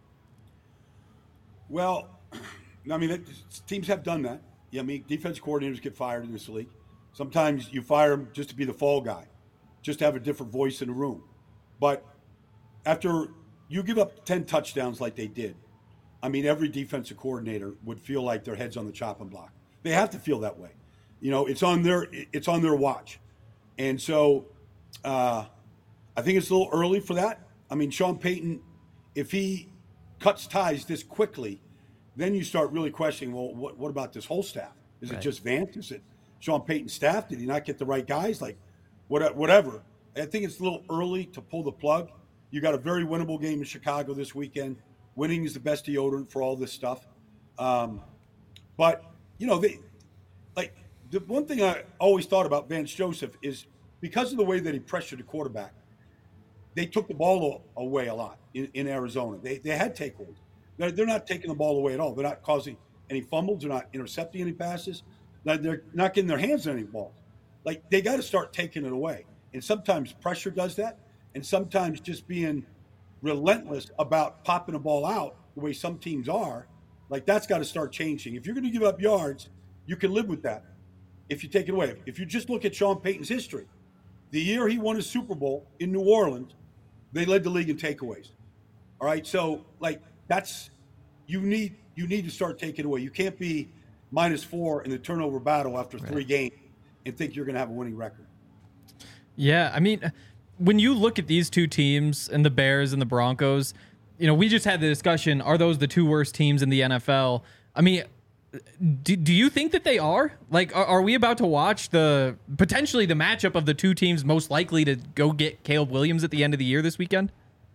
Well, I mean, teams have done that. Yeah, I mean, defense coordinators get fired in this league. Sometimes you fire them just to be the fall guy, just to have a different voice in the room. But after you give up 10 touchdowns like they did, I mean, every defensive coordinator would feel like their head's on the chopping block. They have to feel that way. You know, it's on their watch. And so I think it's a little early for that. I mean, Sean Payton, if he cuts ties this quickly, then you start really questioning, well, what about this whole staff? Is it just Vance? Is it Sean Payton's staff? Did he not get the right guys? Like, whatever. I think it's a little early to pull the plug. You got a very winnable game in Chicago this weekend. Winning is the best deodorant for all this stuff. But, you know, the one thing I always thought about Vance Joseph is because of the way that he pressured the quarterback, they took the ball away a lot in Arizona. They had takeaways. They're not taking the ball away at all. They're not causing any fumbles. They're not intercepting any passes. They're not getting their hands on any balls. Like, they got to start taking it away. And sometimes pressure does that. And sometimes just being relentless about popping a ball out the way some teams are, like, that's got to start changing. If you're going to give up yards, you can live with that if you take it away. If you just look at Sean Payton's history, the year he won his Super Bowl in New Orleans, they led the league in takeaways. All right, so, like, that's you need to start taking away. You can't be -4 in the turnover battle after 3 games and think you're going to have a winning record. Yeah, I mean, when you look at these two teams and the Bears and the Broncos, you know, we just had the discussion, are those the 2 worst teams in the NFL? I mean, do you think that they are? Like, are we about to watch potentially the matchup of the 2 teams most likely to go get Caleb Williams at the end of the year this weekend?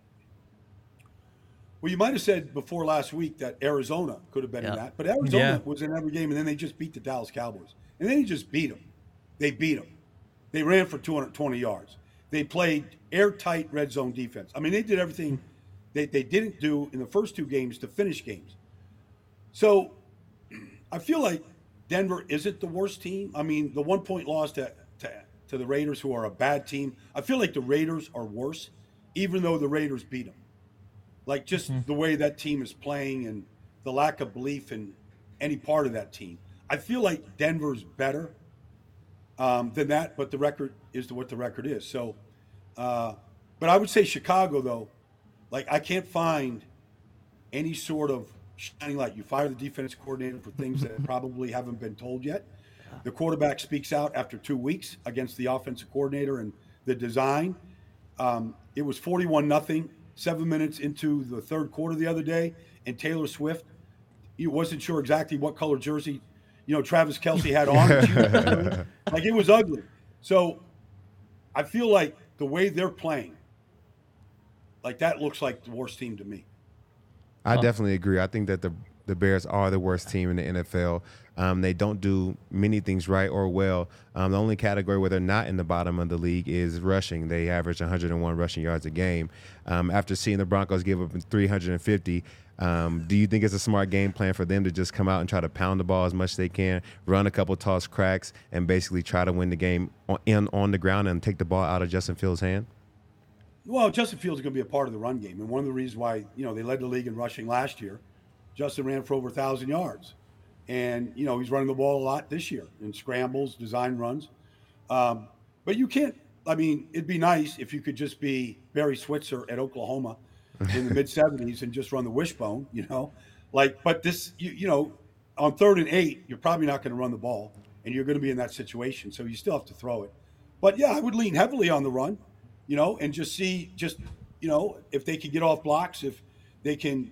Well, you might have said before last week that Arizona could have been in that, but Arizona was in every game, and then they just beat the Dallas Cowboys. And then they just beat them. They beat them. They ran for 220 yards. They played airtight red zone defense. I mean, they did everything they didn't do in the first 2 games to finish games. So I feel like Denver isn't the worst team. I mean, the 1-point loss to the Raiders, who are a bad team, I feel like the Raiders are worse, even though the Raiders beat them. Like, just the way that team is playing and the lack of belief in any part of that team. I feel like Denver's better than that, but the record is what the record is. So, but I would say Chicago, though, like, I can't find any sort of shining light. You fire the defense coordinator for things that probably haven't been told yet. The quarterback speaks out after 2 weeks against the offensive coordinator and the design. It was 41-0. 7 minutes into the third quarter the other day, and Taylor Swift, he wasn't sure exactly what color jersey, you know, Travis Kelce had on. Like, it was ugly. So I feel like the way they're playing, like, that looks like the worst team to me. I definitely agree. I think that the Bears are the worst team in the NFL. They don't do many things right or well. The only category where they're not in the bottom of the league is rushing. They average 101 rushing yards a game. After seeing the Broncos give up 350, do you think it's a smart game plan for them to just come out and try to pound the ball as much as they can, run a couple toss cracks, and basically try to win the game on the ground and take the ball out of Justin Fields' hand? Well, Justin Fields is going to be a part of the run game. And one of the reasons why, you know, they led the league in rushing last year, Justin ran for over 1,000 yards. And, he's running the ball a lot this year in scrambles, design runs. But you can't, it'd be nice if you could just be Barry Switzer at Oklahoma in the mid 70s and just run the wishbone, but this, on 3rd and 8, you're probably not going to run the ball and you're going to be in that situation. So you still have to throw it. But yeah, I would lean heavily on the run, and just see, if they can get off blocks, if they can,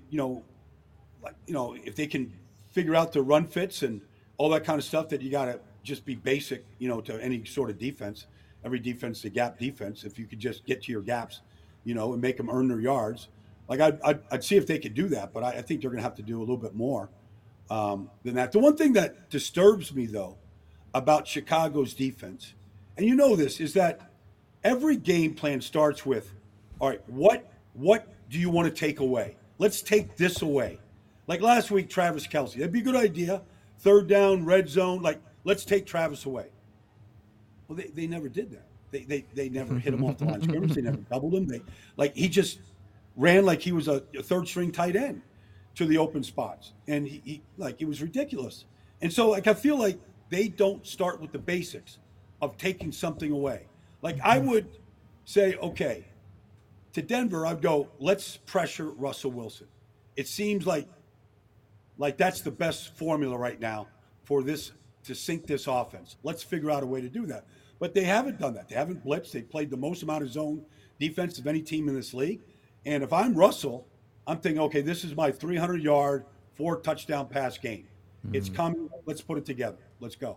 if they can figure out the run fits and all that kind of stuff that you got to just be basic, to any sort of defense. Every defense is a gap defense. If you could just get to your gaps, and make them earn their yards. Like I'd see if they could do that, but I think they're going to have to do a little bit more than that. The one thing that disturbs me, though, about Chicago's defense, and this, is that every game plan starts with, all right, what do you want to take away? Let's take this away. Like last week, Travis Kelce. That'd be a good idea. 3rd down, red zone. Like, let's take Travis away. Well, they never did that. They never hit him off the line of scrimmage. They never doubled him. He just ran like he was a 3rd-string tight end to the open spots, and he it was ridiculous. And so, I feel like they don't start with the basics of taking something away. Like, I would say, okay, to Denver, I'd go, let's pressure Russell Wilson. It seems like that's the best formula right now for this, to sink this offense. Let's figure out a way to do that. But they haven't done that. They haven't blitzed. They played the most amount of zone defense of any team in this league. And if I'm Russell, I'm thinking, okay, this is my 300-yard, 4-touchdown pass game. It's coming. Let's put it together. Let's go.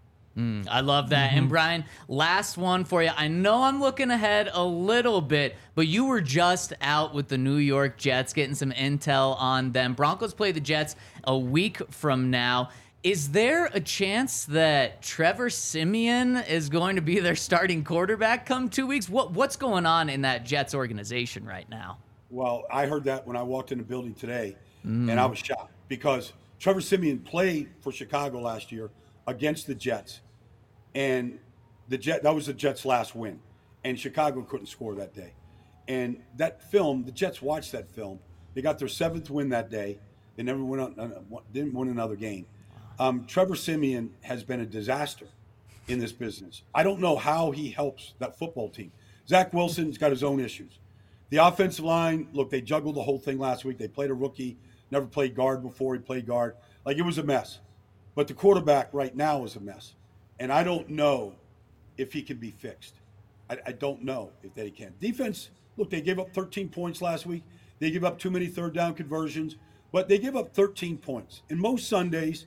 I love that. And Brian, last one for you. I know I'm looking ahead a little bit, but you were just out with the New York Jets, getting some intel on them. Broncos play the Jets a week from now. Is there a chance that Trevor Siemian is going to be their starting quarterback come 2 weeks? What's going on in that Jets organization right now? Well, I heard that when I walked in the building today, and I was shocked because Trevor Siemian played for Chicago last year against the Jets. And that was the Jets' last win. And Chicago couldn't score that day. And that film, the Jets watched that film. They got their 7th win that day. They never didn't win another game. Trevor Siemian has been a disaster in this business. I don't know how he helps that football team. Zach Wilson's got his own issues. The offensive line, look, they juggled the whole thing last week. They played a rookie, never played guard before. He played guard. It was a mess. But the quarterback right now is a mess. And I don't know if he can be fixed. I don't know if they can. Defense, look, they gave up 13 points last week. They give up too many 3rd down conversions, but they give up 13 points. And most Sundays,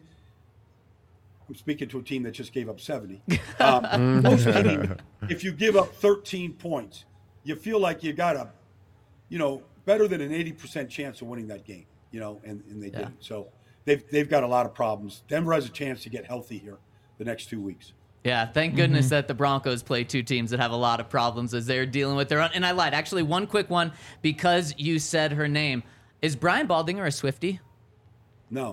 I'm speaking to a team that just gave up 70. Most teams, if you give up 13 points, you feel like you got a, better than an 80% chance of winning that game, and they didn't. So they've got a lot of problems. Denver has a chance to get healthy here the next 2 weeks. Yeah, thank goodness that the Broncos play 2 teams that have a lot of problems as they're dealing with their own. And I lied. Actually, one quick one, because you said her name. Is Brian Baldinger a Swiftie? No.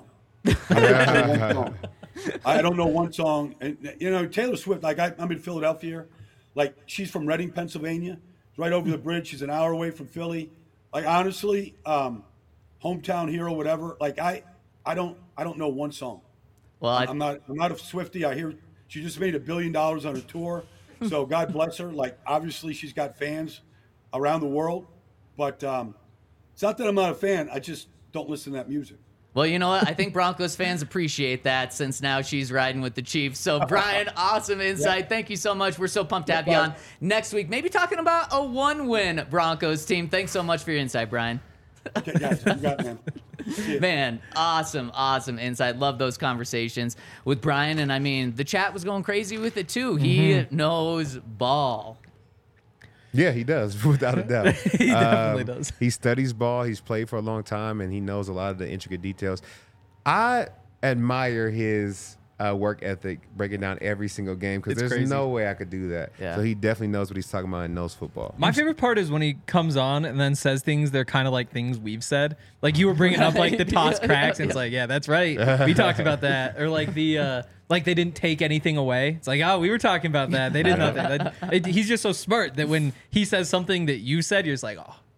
I don't know one song. And, Taylor Swift, I'm in Philadelphia. She's from Reading, Pennsylvania. It's right over the bridge. She's an hour away from Philly. Honestly, hometown hero, whatever. I don't know one song. Well, I'm not a Swiftie. I hear she just made $1 billion on her tour, so God bless her. Obviously she's got fans around the world, but it's not that I'm not a fan. I just don't listen to that music. Well, you know what? I think Broncos fans appreciate that since now she's riding with the Chiefs. So, Brian, awesome insight. Yeah. Thank you so much. We're so pumped to have you on next week. Maybe talking about a 1-win Broncos team. Thanks so much for your insight, Brian. Okay, guys, you got it, man. Man, awesome insight. Love those conversations with Brian. And the chat was going crazy with it too. He knows ball. Yeah, he does, without a doubt. He definitely does. He studies ball. He's played for a long time, and he knows a lot of the intricate details. I admire his work ethic, breaking down every single game, because there's crazy. No way I could do that. Yeah. So he definitely knows what he's talking about and knows football. My favorite part is when he comes on and then says things that are kind of like things we've said. Like you were bringing up the toss cracks, and it's like, yeah, that's right. We talked about that. Or like they didn't take anything away. It's like, oh, we were talking about that. They did nothing. He's just so smart that when he says something that you said, you're just like, oh,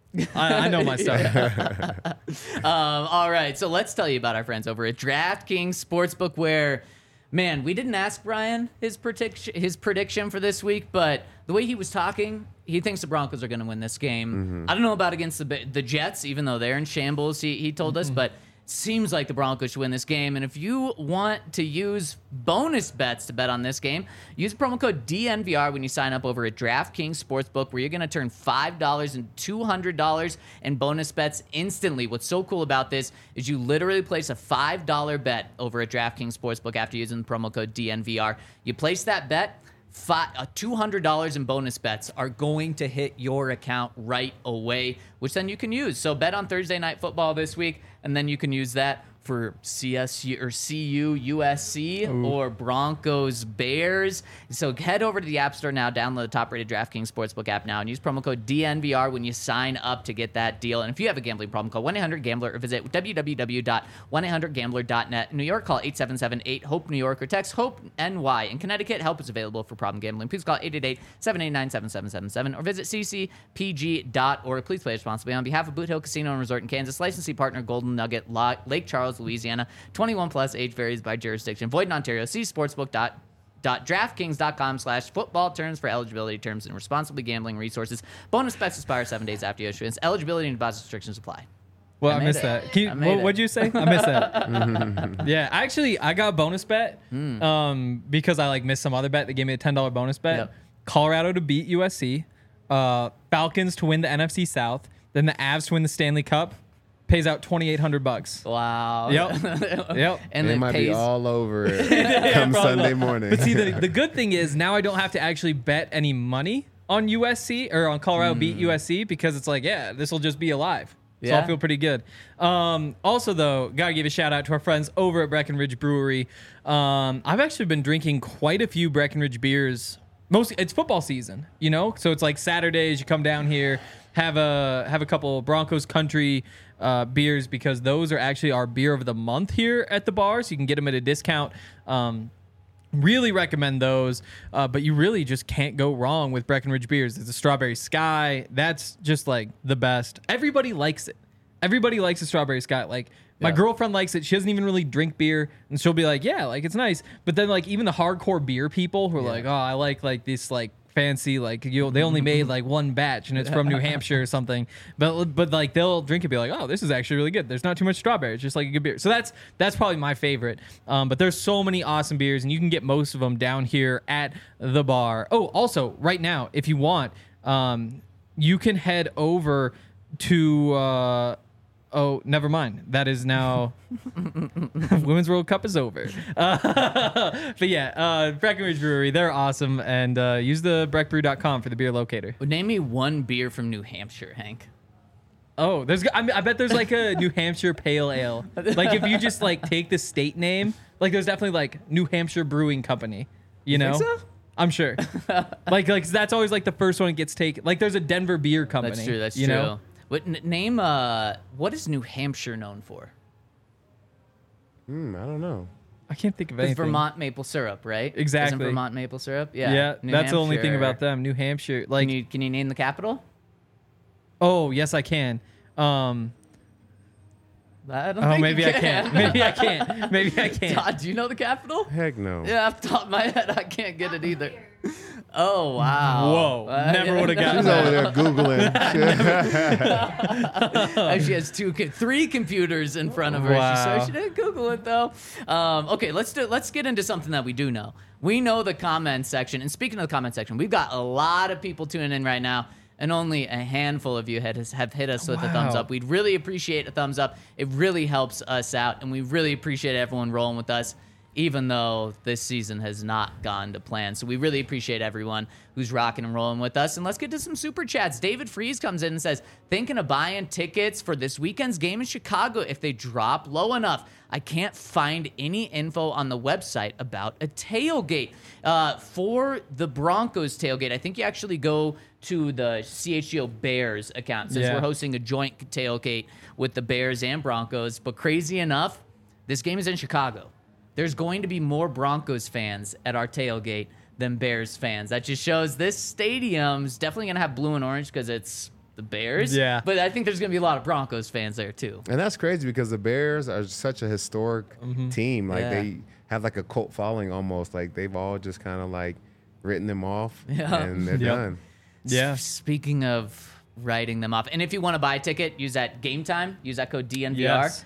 I know my stuff. All right, so let's tell you about our friends over at DraftKings Sportsbook, where, man, we didn't ask Brian his prediction for this week, but the way he was talking, he thinks the Broncos are going to win this game. I don't know about against the Jets, even though they're in shambles, he told us, but seems like the Broncos should win this game. And if you want to use bonus bets to bet on this game, use promo code DNVR when you sign up over at DraftKings Sportsbook, where you're going to turn $5 and $200 in bonus bets instantly. What's so cool about this is you literally place a $5 bet over at DraftKings Sportsbook after using the promo code DNVR. You place that bet, $200 in bonus bets are going to hit your account right away, which then you can use. So bet on Thursday Night Football this week, and then you can use that for CSU or CU USC or Broncos Bears. So head over to the App Store now, download the top-rated DraftKings Sportsbook app now, and use promo code DNVR when you sign up to get that deal. And if you have a gambling problem, call 1-800-GAMBLER or visit www.1800gambler.net. In New York, call 877-8-HOPE-NEW YORK or text HOPE-NY. In Connecticut, help is available for problem gambling. Please call 888-789-7777 or visit ccpg.org. Please play responsibly. On behalf of Boot Hill Casino and Resort in Kansas, licensee partner Golden Nugget, Lake Charles, Louisiana. 21 plus, age varies by jurisdiction. Void in Ontario. See sportsbook.draftkings.com/football terms for eligibility, terms, and responsibly gambling resources. Bonus bets expire 7 days after issuance. Eligibility and deposit restrictions apply. Well, I missed that. What'd you say? I missed that. Yeah, actually, I got a bonus bet because I missed some other bet. They gave me a $10 bonus bet. Yep. Colorado to beat USC, Falcons to win the NFC South, then the Avs to win the Stanley Cup. Pays out $2,800. Wow. Yep. And they it might pays be all over it come Sunday morning. But see, the good thing is now I don't have to actually bet any money on USC or on Colorado beat USC because it's this will just be alive. So Yeah. I'll feel pretty good. Also, though, gotta give a shout out to our friends over at Breckenridge Brewery. I've actually been drinking quite a few Breckenridge beers. It's football season, so it's like Saturdays. You come down here, have a couple Broncos country beers because those are actually our beer of the month here at the bar. So you can get them at a discount. Really recommend those, but you really just can't go wrong with Breckenridge beers. It's a Strawberry Sky. That's just the best. Everybody likes it. Everybody likes a Strawberry Sky. My girlfriend likes it. She doesn't even really drink beer, and she'll be it's nice. But then even the hardcore beer people who are I like this fancy they only made one batch and it's from New Hampshire or something. But they'll drink it and be oh, this is actually really good. There's not too much strawberry. It's just a good beer. So that's probably my favorite. But there's so many awesome beers and you can get most of them down here at the bar. Oh, also right now, if you want, you can head over to oh, never mind. That is now Women's World Cup is over. But yeah, Breckenridge Brewery, they're awesome. And use the breckbrew.com for the beer locator. Name me one beer from New Hampshire, Hank. Oh, I bet there's a New Hampshire Pale Ale. If you just take the state name, there's definitely New Hampshire Brewing Company. You know? Think so? I'm sure. That's always the first one that gets taken. There's a Denver Beer Company. That's true. That's you true. know? Name what is New Hampshire known for? I don't know. I can't think of It's anything. Vermont maple syrup, right? Exactly. Isn't Vermont maple syrup? Yeah. Yeah, New that's the only thing Hampshire. about them. New Hampshire. Can you name the capital? Oh, yes, I can. I don't think Maybe you I can't. Maybe I can't. Maybe I can't. Todd, do you know the capital? Heck no. Yeah, off the top of my head, I can't get it either. Oh, wow. Whoa. Never would have gotten She's that. over there Googling. She has three computers in front of her. Wow. She didn't Google it though. Okay, let's get into something that we do know. We know the comment section. And speaking of the comment section, we've got a lot of people tuning in right now. And only a handful of you have hit us with a thumbs up. We'd really appreciate a thumbs up. It really helps us out. And we really appreciate everyone rolling with us, even though this season has not gone to plan. So we really appreciate everyone who's rocking and rolling with us. And let's get to some super chats. David Freeze comes in and says, thinking of buying tickets for this weekend's game in Chicago if they drop low enough. I can't find any info on the website about a tailgate. For the Broncos tailgate, I think you actually go to the CHGO Bears account since we're hosting a joint tailgate with the Bears and Broncos. But crazy enough, this game is in Chicago. There's going to be more Broncos fans at our tailgate than Bears fans. That just shows this stadium's definitely going to have blue and orange because it's the Bears. Yeah. But I think there's going to be a lot of Broncos fans there too. And that's crazy because the Bears are such a historic team. Like Yeah. they have like a cult following almost. Like they've all just kind of like written them off Yeah. and they're Yep. done. Yeah. Speaking of writing them off, and if you want to buy a ticket, use that Game Time. Use that code DNVR. Yes.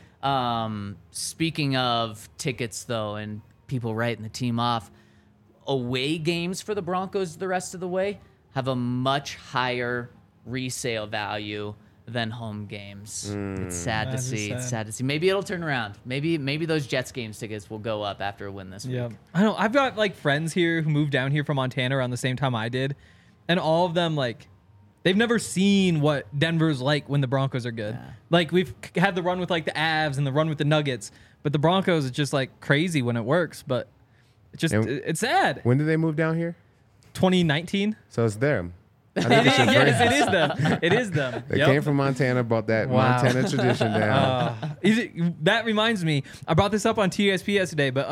Speaking of tickets, though, and people writing the team off, away games for the Broncos the rest of the way have a much higher resale value than home games. It's sad to That is see. It's sad. sad to see. Maybe it'll turn around. Maybe those Jets games tickets will go up after a win this week. Yeah, I know. I've got like friends here who moved down here from Montana around the same time I did, and all of them like they've never seen what Denver's like when the Broncos are good. Yeah. Like we've had the run with like the Avs and the run with the Nuggets, but the Broncos is just like crazy when it works. But it's just And- it's sad. When did they move down here? 2019. So it's them. I think it's just Yes, great. it is them. It is them. They Yep. came from Montana, brought that Wow. Montana tradition down. That reminds me, I brought this up on TSP yesterday, but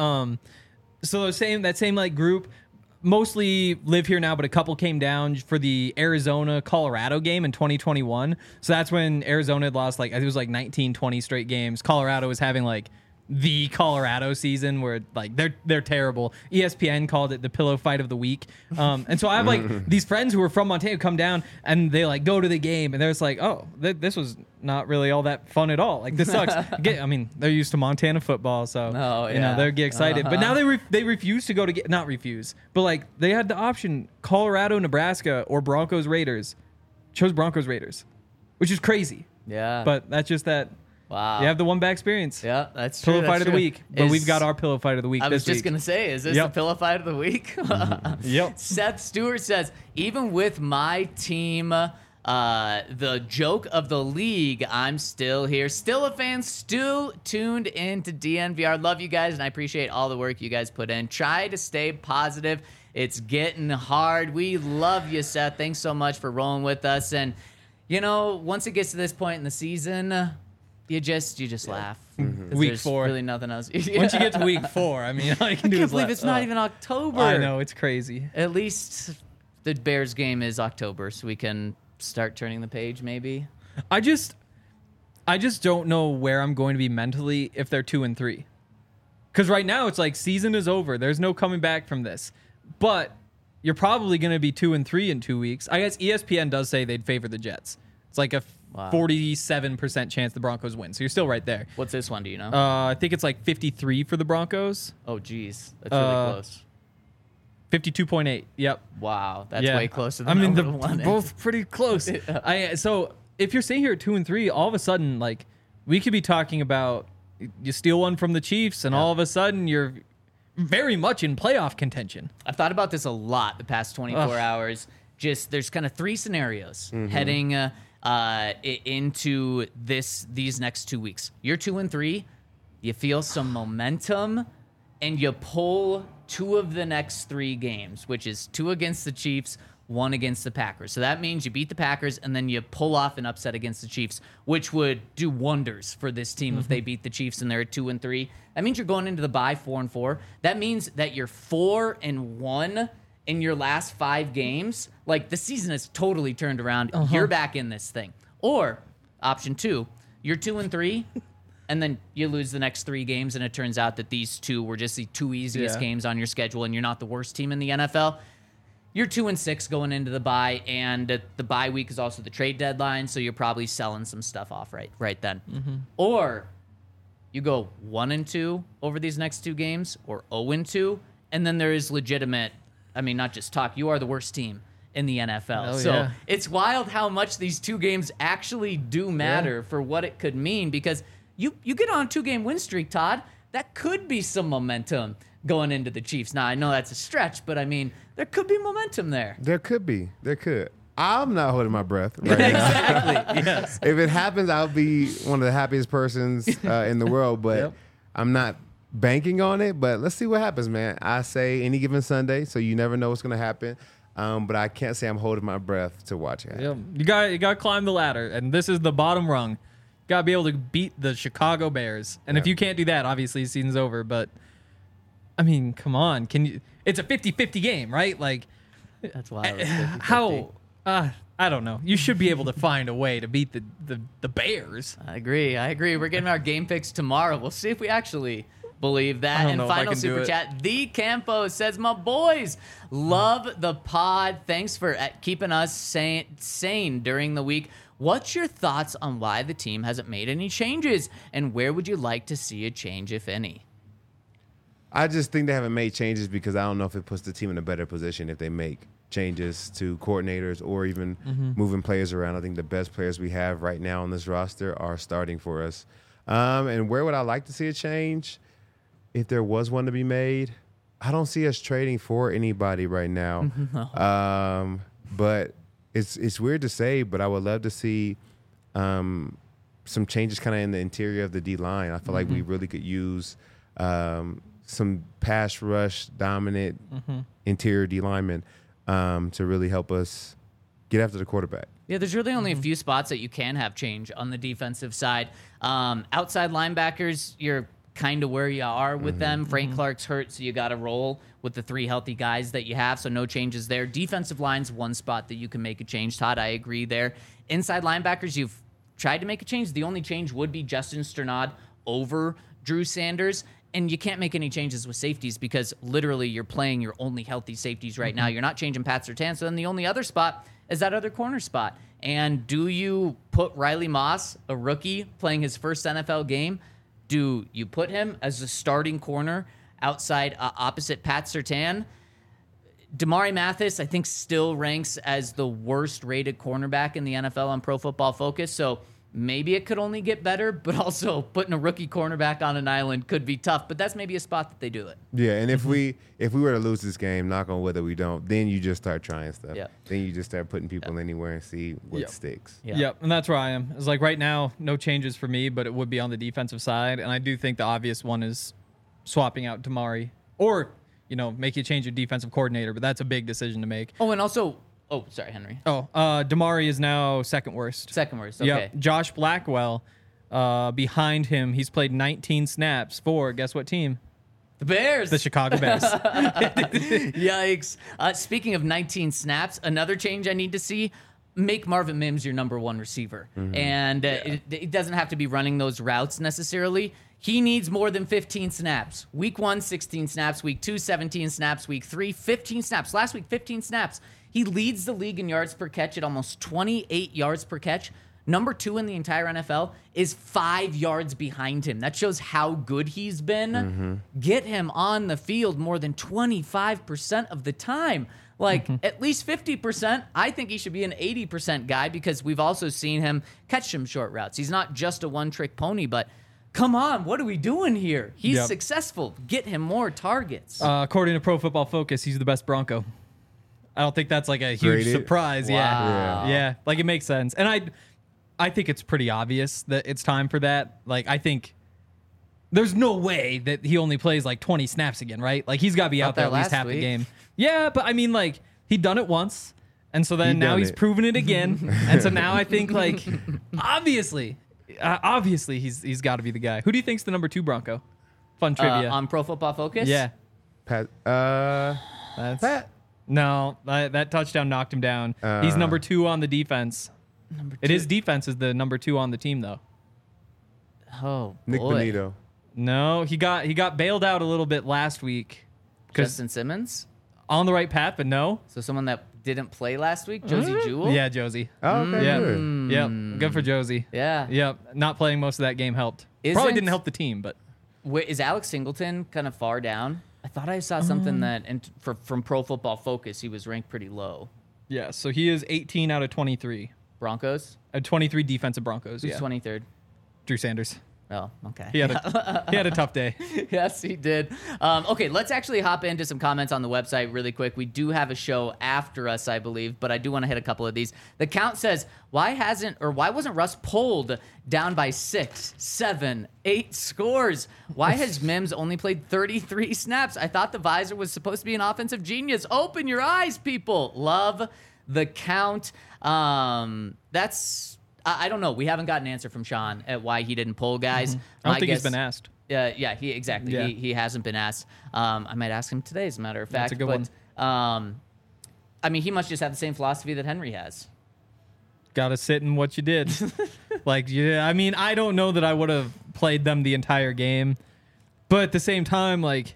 so that same like group mostly live here now, but a couple came down for the Arizona Colorado game in 2021. So that's when Arizona had lost like I think it was like 19, 20 straight games. Colorado was having like the Colorado season where like they're terrible. ESPN called it the pillow fight of the week. And so I have like these friends who are from Montana come down and they like go to the game and they're just like, oh, this was not really all that fun at all. Like this sucks. I mean, they're used to Montana football, so Oh, you know yeah. they get excited. But now they refuse to go to not refuse, but like they had the option Colorado, Nebraska, or Broncos Raiders. Chose Broncos Raiders, which is crazy. Yeah. But that's just that. wow. You have the one bad experience. Yeah, that's true. Pillow fight that's of the true. week. But Is- we've got our pillow fight of the week I was this just week. going to say, is this Yep. the pillow fight of the week? Yep. Seth Stewart says, even with my team, the joke of the league, I'm still here. Still a fan, still tuned into DNVR. Love you guys, and I appreciate all the work you guys put in. Try to stay positive. It's getting hard. We love you, Seth. Thanks so much for rolling with us. And, you know, once it gets to this point in the season, you just laugh. 'Cause Week there's 4. really nothing else. Once you get to week 4, I mean, all you can I do can't is believe laugh. it's not Oh. even October. I know, it's crazy. At least the Bears game is October, so we can start turning the page, maybe. I just don't know where I'm going to be mentally if they're 2-3. Because right now it's like season is over. There's no coming back from this. But you're probably going to be 2-3 in 2 weeks. I guess ESPN does say they'd favor the Jets. It's like a Wow. 47% chance the Broncos win. So you're still right there. What's this one? Do you know? I think it's like 53 for the Broncos. oh, geez, that's really close. 52.8. Yep. Wow, that's way closer I than mean, I they're would've wanted. both pretty close. So if you're sitting here at 2-3, all of a sudden, like we could be talking about you steal one from the Chiefs, and all of a sudden you're very much in playoff contention. I've thought about this a lot the past 24 Ugh. hours. Just there's kind of 3 scenarios heading into these next 2 weeks. You're 2-3, you feel some momentum, and you pull 2 of the next 3 games, which is 2 against the Chiefs, 1 against the Packers. So that means you beat the Packers and then you pull off an upset against the Chiefs, which would do wonders for this team if they beat the Chiefs and they're at 2-3. That means you're going into the bye 4-4. That means that you're 4-1 in your last 5 games. Like the season has totally turned around. You're back in this thing. Or option 2, you're 2-3. And then you lose the next 3 games, and it turns out that these 2 were just the 2 easiest Yeah. games on your schedule, and you're not the worst team in the NFL. You're 2-6 going into the bye, and the bye week is also the trade deadline, so you're probably selling some stuff off right then. Or you go 1-2 over these next 2 games, or 0-2, and then there is legitimate. I mean, not just talk. You are the worst team in the NFL. Oh, So yeah. it's wild how much these 2 games actually do matter for what it could mean, because you get on a 2-game win streak, Todd. That could be some momentum going into the Chiefs. Now, I know that's a stretch, but I mean, there could be momentum there. There could be. There could. I'm not holding my breath right now. Exactly. Yes. If it happens, I'll be one of the happiest persons in the world, but Yep. I'm not banking on it. But let's see what happens, man. I say any given Sunday, so you never know what's going to happen. But I can't say I'm holding my breath to watch it happen. You got to climb the ladder, and this is the bottom rung. Got to be able to beat the Chicago Bears, and if you can't do that, obviously the season's over. But I mean, come on, can you? It's a 50-50 game, right? Like That's wild. It's 50-50. how? I I don't know. You should be able to find a way to beat the Bears. I agree. We're getting our game picks tomorrow. We'll see if we actually believe that. I don't And know if I final can do super it. chat, the Campo says, my boys, love the pod. Thanks for keeping us sane during the week. What's your thoughts on why the team hasn't made any changes? And where would you like to see a change, if any? I just think they haven't made changes because I don't know if it puts the team in a better position if they make changes to coordinators or even moving players around. I think the best players we have right now on this roster are starting for us. And where would I like to see a change? If there was one to be made, I don't see us trading for anybody right now. But it's weird to say, but I would love to see some changes kind of in the interior of the D-line. I feel like we really could use some pass rush dominant interior D linemen to really help us get after the quarterback. Yeah, there's really only a few spots that you can have change on the defensive side. Outside linebackers, you're kind of where you are with them. Frank Clark's hurt, so you got to roll with the 3 healthy guys that you have, so no changes there. Defensive line's one spot that you can make a change. Todd, I agree there. Inside linebackers, you've tried to make a change. The only change would be Justin Strnad over Drew Sanders. And you can't make any changes with safeties because literally you're playing your only healthy safeties right now. You're not changing Pat Surtain. So then the only other spot is that other corner spot. And do you put Riley Moss, a rookie, playing his first NFL game, do you put him as a starting corner outside opposite Pat Surtain? Damari Mathis, I think, still ranks as the worst rated cornerback in the NFL on Pro Football Focus. So maybe it could only get better, but also putting a rookie cornerback on an island could be tough. But that's maybe a spot that they do it. Yeah, and if we were to lose this game, knock on wood that we don't, then you just start trying stuff. Yep. Then you just start putting people anywhere and see what sticks. Yeah. Yep, and that's where I am. It's like right now, no changes for me, but it would be on the defensive side. And I do think the obvious one is swapping out Damari or, make you change your defensive coordinator, but that's a big decision to make. Oh, and also, sorry, Henry. Damari is now second worst. Second worst, okay. Yep. Josh Blackwell, behind him, he's played 19 snaps for, guess what team? The Bears. The Chicago Bears. Yikes. Speaking of 19 snaps, another change I need to see, make Marvin Mims your number 1 receiver. And it doesn't have to be running those routes necessarily. He needs more than 15 snaps. Week 1, 16 snaps. Week 2, 17 snaps. Week 3, 15 snaps. Last week, 15 snaps. He leads the league in yards per catch at almost 28 yards per catch. Number 2 in the entire NFL is 5 yards behind him. That shows how good he's been. Get him on the field more than 25% of the time. At least 50%. I think he should be an 80% guy because we've also seen him catch some short routes. He's not just a one-trick pony, but come on, what are we doing here? He's successful. Get him more targets. According to Pro Football Focus, he's the best Bronco. I don't think that's like a huge surprise. Wow. Yeah. Like it makes sense. And I think it's pretty obvious that it's time for that. Like I think there's no way that he only plays like 20 snaps again, right? Like he's got to be out there at least half the game. Yeah, but I mean like he'd done it once. And so then now he's proven it again. And so now I think like obviously he's got to be the guy. Who do you think's the number 2 Bronco? Fun trivia. On Pro Football Focus? Yeah. Pat. No, that touchdown knocked him down. He's number 2 on the defense. His defense is the number 2 on the team, though. Oh, boy. Nick Bonito. No, he got bailed out a little bit last week. Justin Simmons? On the right path, but no. So someone that didn't play last week? Josie Jewell? Yeah, Josie. Oh, okay. Yeah. Good. Yep. Good for Josie. Yeah. Yep. Not playing most of that game helped. Probably didn't help the team, but. Wait, is Alex Singleton kind of far down? I thought I saw something that from Pro Football Focus, he was ranked pretty low. Yeah, so he is 18 out of 23. Broncos? 23 defensive Broncos, Who's 23rd? Drew Sanders. Oh, okay. He had a tough day. Yes, he did. Okay, let's actually hop into some comments on the website really quick. We do have a show after us, I believe, but I do want to hit a couple of these. The count says, why wasn't Russ pulled down by 6, 7, 8 scores? Why has Mims only played 33 snaps? I thought the visor was supposed to be an offensive genius. Open your eyes, people. Love the count. I don't know. We haven't got an answer from Sean at why he didn't pull guys. I don't think he's been asked. Yeah, exactly. Yeah. He hasn't been asked. I might ask him today, as a matter of fact. That's a good one. I mean, he must just have the same philosophy that Henry has. gotta sit in what you did. I mean, I don't know that I would have played them the entire game, but at the same time, like,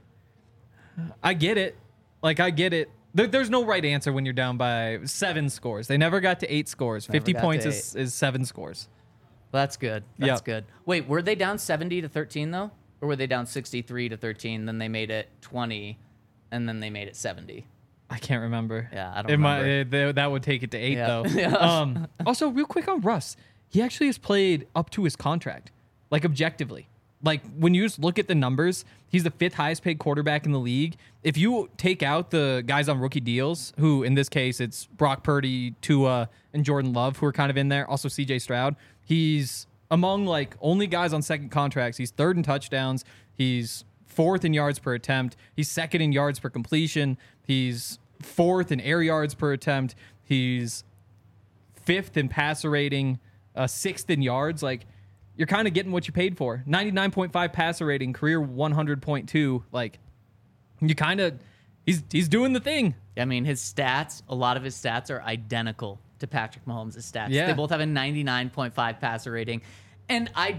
I get it. I get it. There's no right answer when you're down by 7 scores. They never got to 8 scores. 50 points is 7 scores. Well, that's good. That's good. Wait, were they down 70-13 though, or were they down 63-13? Then they made it 20, and then they made it 70. I can't remember. Yeah, I don't remember. That would take it to 8 though. Yeah. Also, real quick on Russ, he actually has played up to his contract, like objectively. Like when you just look at the numbers, he's the 5th highest paid quarterback in the league. If you take out the guys on rookie deals, who in this case it's Brock Purdy, Tua, and Jordan Love, who are kind of in there, also CJ Stroud, he's among like only guys on second contracts. He's 3rd in touchdowns. He's 4th in yards per attempt. He's 2nd in yards per completion. He's 4th in air yards per attempt. He's 5th in passer rating, 6th in yards. Like, you're kind of getting what you paid for. 99.5 passer rating, career 100.2. Like, you kind of, he's doing the thing. I mean, his stats, a lot of his stats are identical to Patrick Mahomes' stats. Yeah. They both have a 99.5 passer rating. And I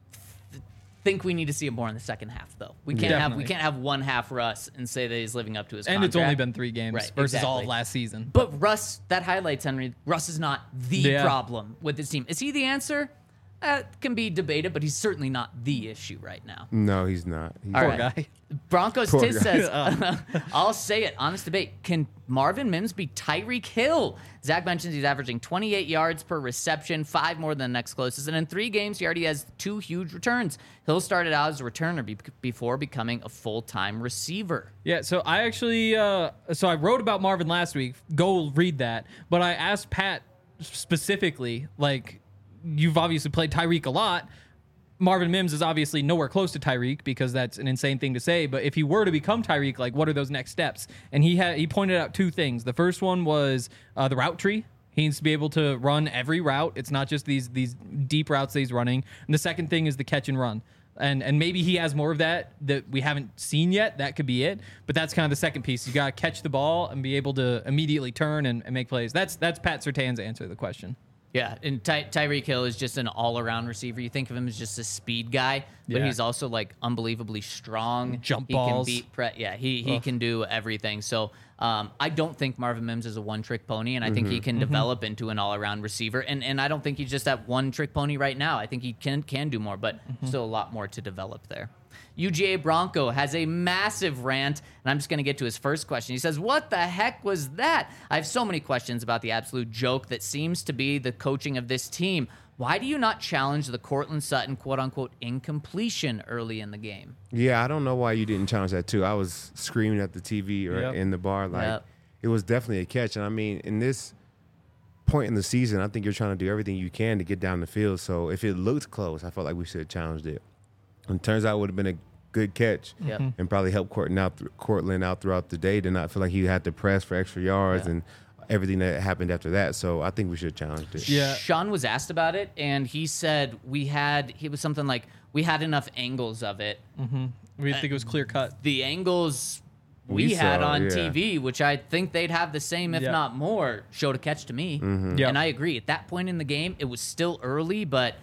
think we need to see it more in the second half, though. We can't have one half Russ and say that he's living up to his contract. And it's only been 3 games Right, versus all exactly. of last season. But Russ, that highlights, Henry, Russ is not the Yeah. problem with this team. Is he the answer? Can be debated, but he's certainly not the issue right now. No, he's not. He's All Poor right. guy. Broncos Poor Tiz guy. says, I'll say it, honest debate. Can Marvin Mims be Tyreek Hill? Zach mentions he's averaging 28 yards per reception, 5 more than the next closest. And in 3 games, he already has 2 huge returns. Hill started out as a returner before becoming a full-time receiver. Yeah, so I actually, so I wrote about Marvin last week. Go read that. But I asked Pat specifically, like, you've obviously played Tyreek a lot. Marvin Mims is obviously nowhere close to Tyreek because that's an insane thing to say. But if he were to become Tyreek, like, what are those next steps? And he pointed out 2 things. The first one was the route tree. He needs to be able to run every route. It's not just these deep routes that he's running. And the second thing is the catch and run. And maybe he has more of that we haven't seen yet. That could be it. But that's kind of the second piece. You got to catch the ball and be able to immediately turn and make plays. That's Pat Surtain's answer to the question. Yeah, and Tyreek Hill is just an all-around receiver. You think of him as just a speed guy, but Yeah. he's also like unbelievably strong. Jump he balls. Can beat he can do everything. So I don't think Marvin Mims is a one-trick pony, and I think he can develop into an all-around receiver. And I don't think he's just that one-trick pony right now. I think he can do more, but still a lot more to develop there. UGA Bronco has a massive rant, and I'm just going to get to his first question. He says, what the heck was that? I have so many questions about the absolute joke that seems to be the coaching of this team. Why do you not challenge the Cortland Sutton quote-unquote incompletion early in the game? Yeah, I don't know why you didn't challenge that too. I was screaming at the TV or Yep. in the bar like Yep. it was definitely a catch. And I mean, in this point in the season, I think you're trying to do everything you can to get down the field. So if it looked close, I felt like we should have challenged it. And it turns out it would have been a good catch Yep. and probably helped Cortland out throughout the day to not feel like he had to press for extra yards and everything that happened after that. So I think we should have challenged it. Yeah. Sean was asked about it, and he said he was something like, we had enough angles of it. We think it was clear cut. The angles we We had saw, on yeah. TV, which I think they'd have the same, if Yeah. not more, showed a catch to me. Yeah. And I agree. At that point in the game, it was still early, but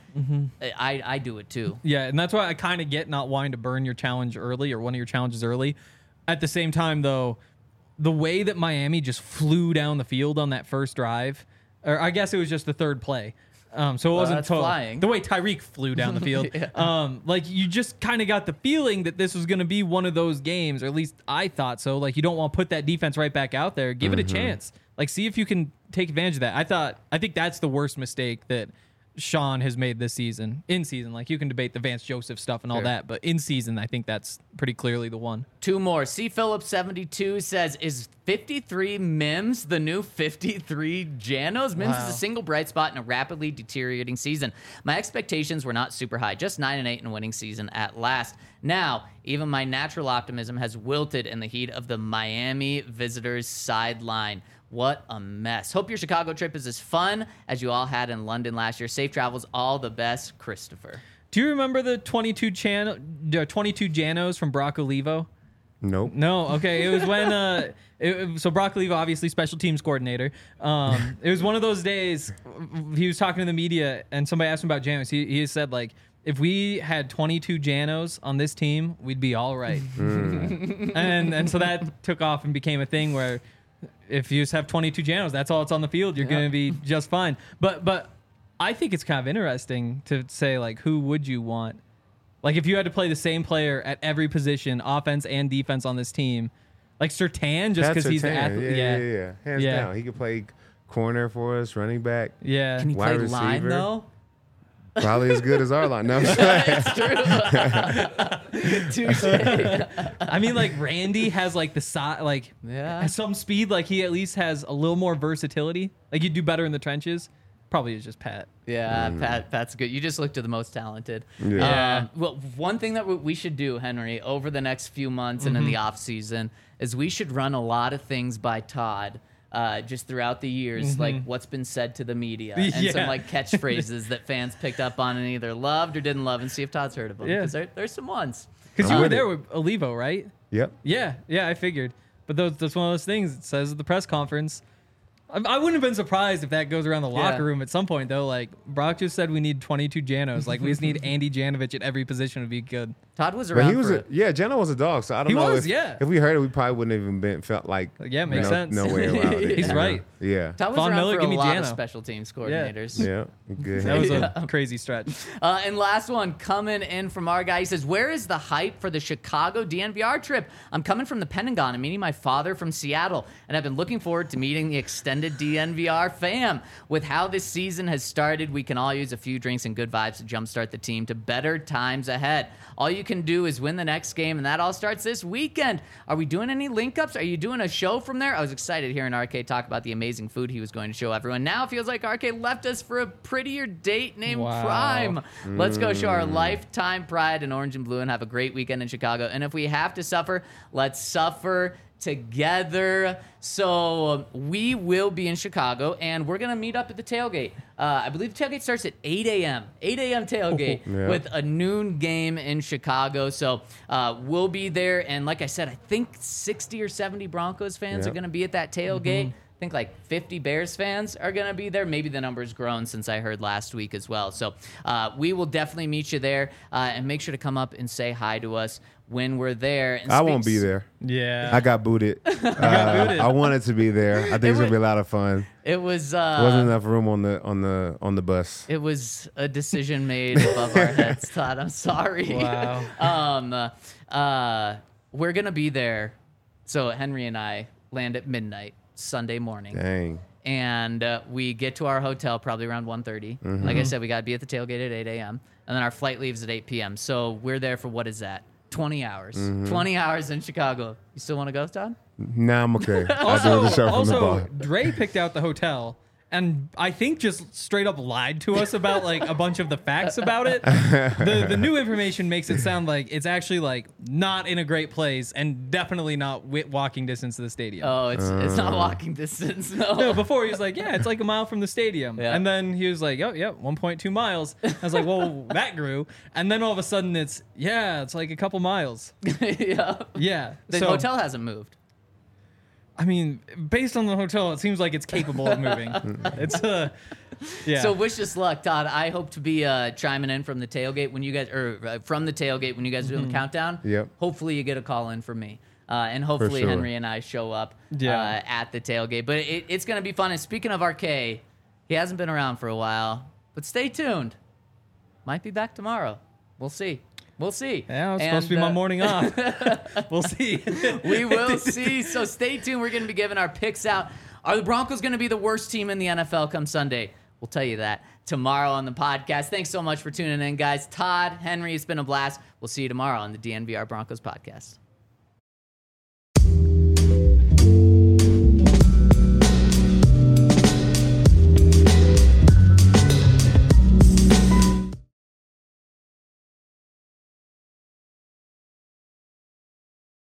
I do it too. Yeah, and that's why I kind of get not wanting to burn your challenge early or one of your challenges early. At the same time, though, the way that Miami just flew down the field on that first drive, or I guess it was just the third play. So it wasn't that's total. flying. The way Tyreek flew down the field, like you just kind of got the feeling that this was going to be one of those games, or at least I thought so. Like you don't want to put that defense right back out there. Give it a chance. Like see if you can take advantage of that. I think that's the worst mistake that Sean has made this season. In season, like you can debate the Vance Joseph stuff and all Sure. that, but in season, I think that's pretty clearly the one. 2 more. C. Phillips 72 says, is 53 Mims the new 53 Janos? Mims is a single bright spot in a rapidly deteriorating season. My expectations were not super high, just 9-8 in a winning season at last. Now, even my natural optimism has wilted in the heat of the Miami visitors' sideline. What a mess. Hope your Chicago trip is as fun as you all had in London last year. Safe travels. All the best, Christopher. Do you remember the 22 Janos from Brock Olivo? Nope. No, okay. It was when So Brock Olivo, obviously special teams coordinator. It was one of those days. He was talking to the media, and somebody asked him about Janos. He said like, if we had 22 Janos on this team, we'd be all right. And so that took off and became a thing where if you just have 22 Janos, that's all it's on the field. You're going to be just fine. But I think it's kind of interesting to say, like, who would you want? Like, if you had to play the same player at every position, offense and defense on this team, like Surtain, just because he's the athlete. Yeah. Hands down. He could play corner for us, running back. Yeah. Can he Wide play line receiver. though? Probably as good as our line. No, It's true. Touche. I mean, like Randy has like the size, like has some speed. Like he at least has a little more versatility. Like you'd do better in the trenches. Probably is just Pat. Yeah, Pat's good. You just looked to the most talented. Yeah. Well, one thing that we should do, Henry, over the next few months and in the off season, is we should run a lot of things by Todd. Just throughout the years, like what's been said to the media and some like catchphrases that fans picked up on and either loved or didn't love, and see if Todd's heard of them. Yeah. Because there's some ones. Because you were there with Olivo, right? Yep. Yeah, I figured. But that's one of those things. It says at the press conference. I wouldn't have been surprised if that goes around the locker room at some point, though. Like, Brock just said we need 22 Janos. Like, we just need Andy Janovich at every position to be good. Todd was But around he was Jano was a dog, so I don't know if we heard it, we probably wouldn't have even felt like makes sense. No way around it. He's right. Yeah. Todd was Von around Miller, for give a me lot of Jano. special teams coordinators. Yeah. Good. That was a crazy stretch. And last one coming in from our guy. He says, where is the hype for the Chicago DNVR trip? I'm coming from the Pentagon and meeting my father from Seattle, and I've been looking forward to meeting the extended DNVR fam. With how this season has started, we can all use a few drinks and good vibes to jumpstart the team to better times ahead. All you can do is win the next game, and that all starts this weekend. Are we doing any link-ups? Are you doing a show from there? I was excited hearing RK talk about the amazing food he was going to show everyone. Now it feels like RK left us for a prettier date named Prime. Let's go show our lifetime pride in orange and blue and have a great weekend in Chicago. And if we have to suffer, let's suffer together. So we will be in Chicago, and we're going to meet up at the tailgate. I believe the tailgate starts at 8 a.m. 8 a.m. tailgate with a noon game in Chicago. So we'll be there. And like I said, I think 60 or 70 Broncos fans are going to be at that tailgate. I think like 50 Bears fans are going to be there. Maybe the number's grown since I heard last week as well. So we will definitely meet you there, and make sure to come up and say hi to us when we're there. And I won't be there. Yeah. I got booted. I wanted to be there. I think it's gonna be a lot of fun. It was There wasn't enough room on the bus. It was a decision made above our heads, Todd. I'm sorry. Wow. We're gonna be there. So Henry and I land at midnight Sunday morning. Dang. And we get to our hotel probably around 1:30. Like I said, we got to be at the tailgate at 8 a.m. And then our flight leaves at 8 p.m. So we're there for, what is that? 20 hours. 20 hours in Chicago. You still want to go, Todd? Nah, I'm okay. I'll do the show from the bar. Dre picked out the hotel, and I think just straight up lied to us about like a bunch of the facts about it. The new information makes it sound like it's actually like not in a great place and definitely not walking distance to the stadium. Oh, it's not walking distance. No, before he was like, yeah, it's like a mile from the stadium. Yeah. And then he was like, oh, yeah, 1.2 miles. I was like, well, that grew. And then all of a sudden it's like a couple miles. Yeah. Yeah. The hotel hasn't moved. I mean, based on the hotel, it seems like it's capable of moving. It's yeah. So wish us luck, Todd. I hope to be chiming in from the tailgate when you guys, or from the tailgate when you guys are doing the countdown. Yep. Hopefully you get a call in from me. And hopefully sure. Henry and I show up at the tailgate. But it's going to be fun. And speaking of RK, he hasn't been around for a while. But stay tuned. Might be back tomorrow. We'll see. We'll see. Yeah, it's supposed to be my morning off. We'll see. We will see. So stay tuned. We're going to be giving our picks out. Are the Broncos going to be the worst team in the NFL come Sunday? We'll tell you that tomorrow on the podcast. Thanks so much for tuning in, guys. Todd, Henry, it's been a blast. We'll see you tomorrow on the DNVR Broncos podcast.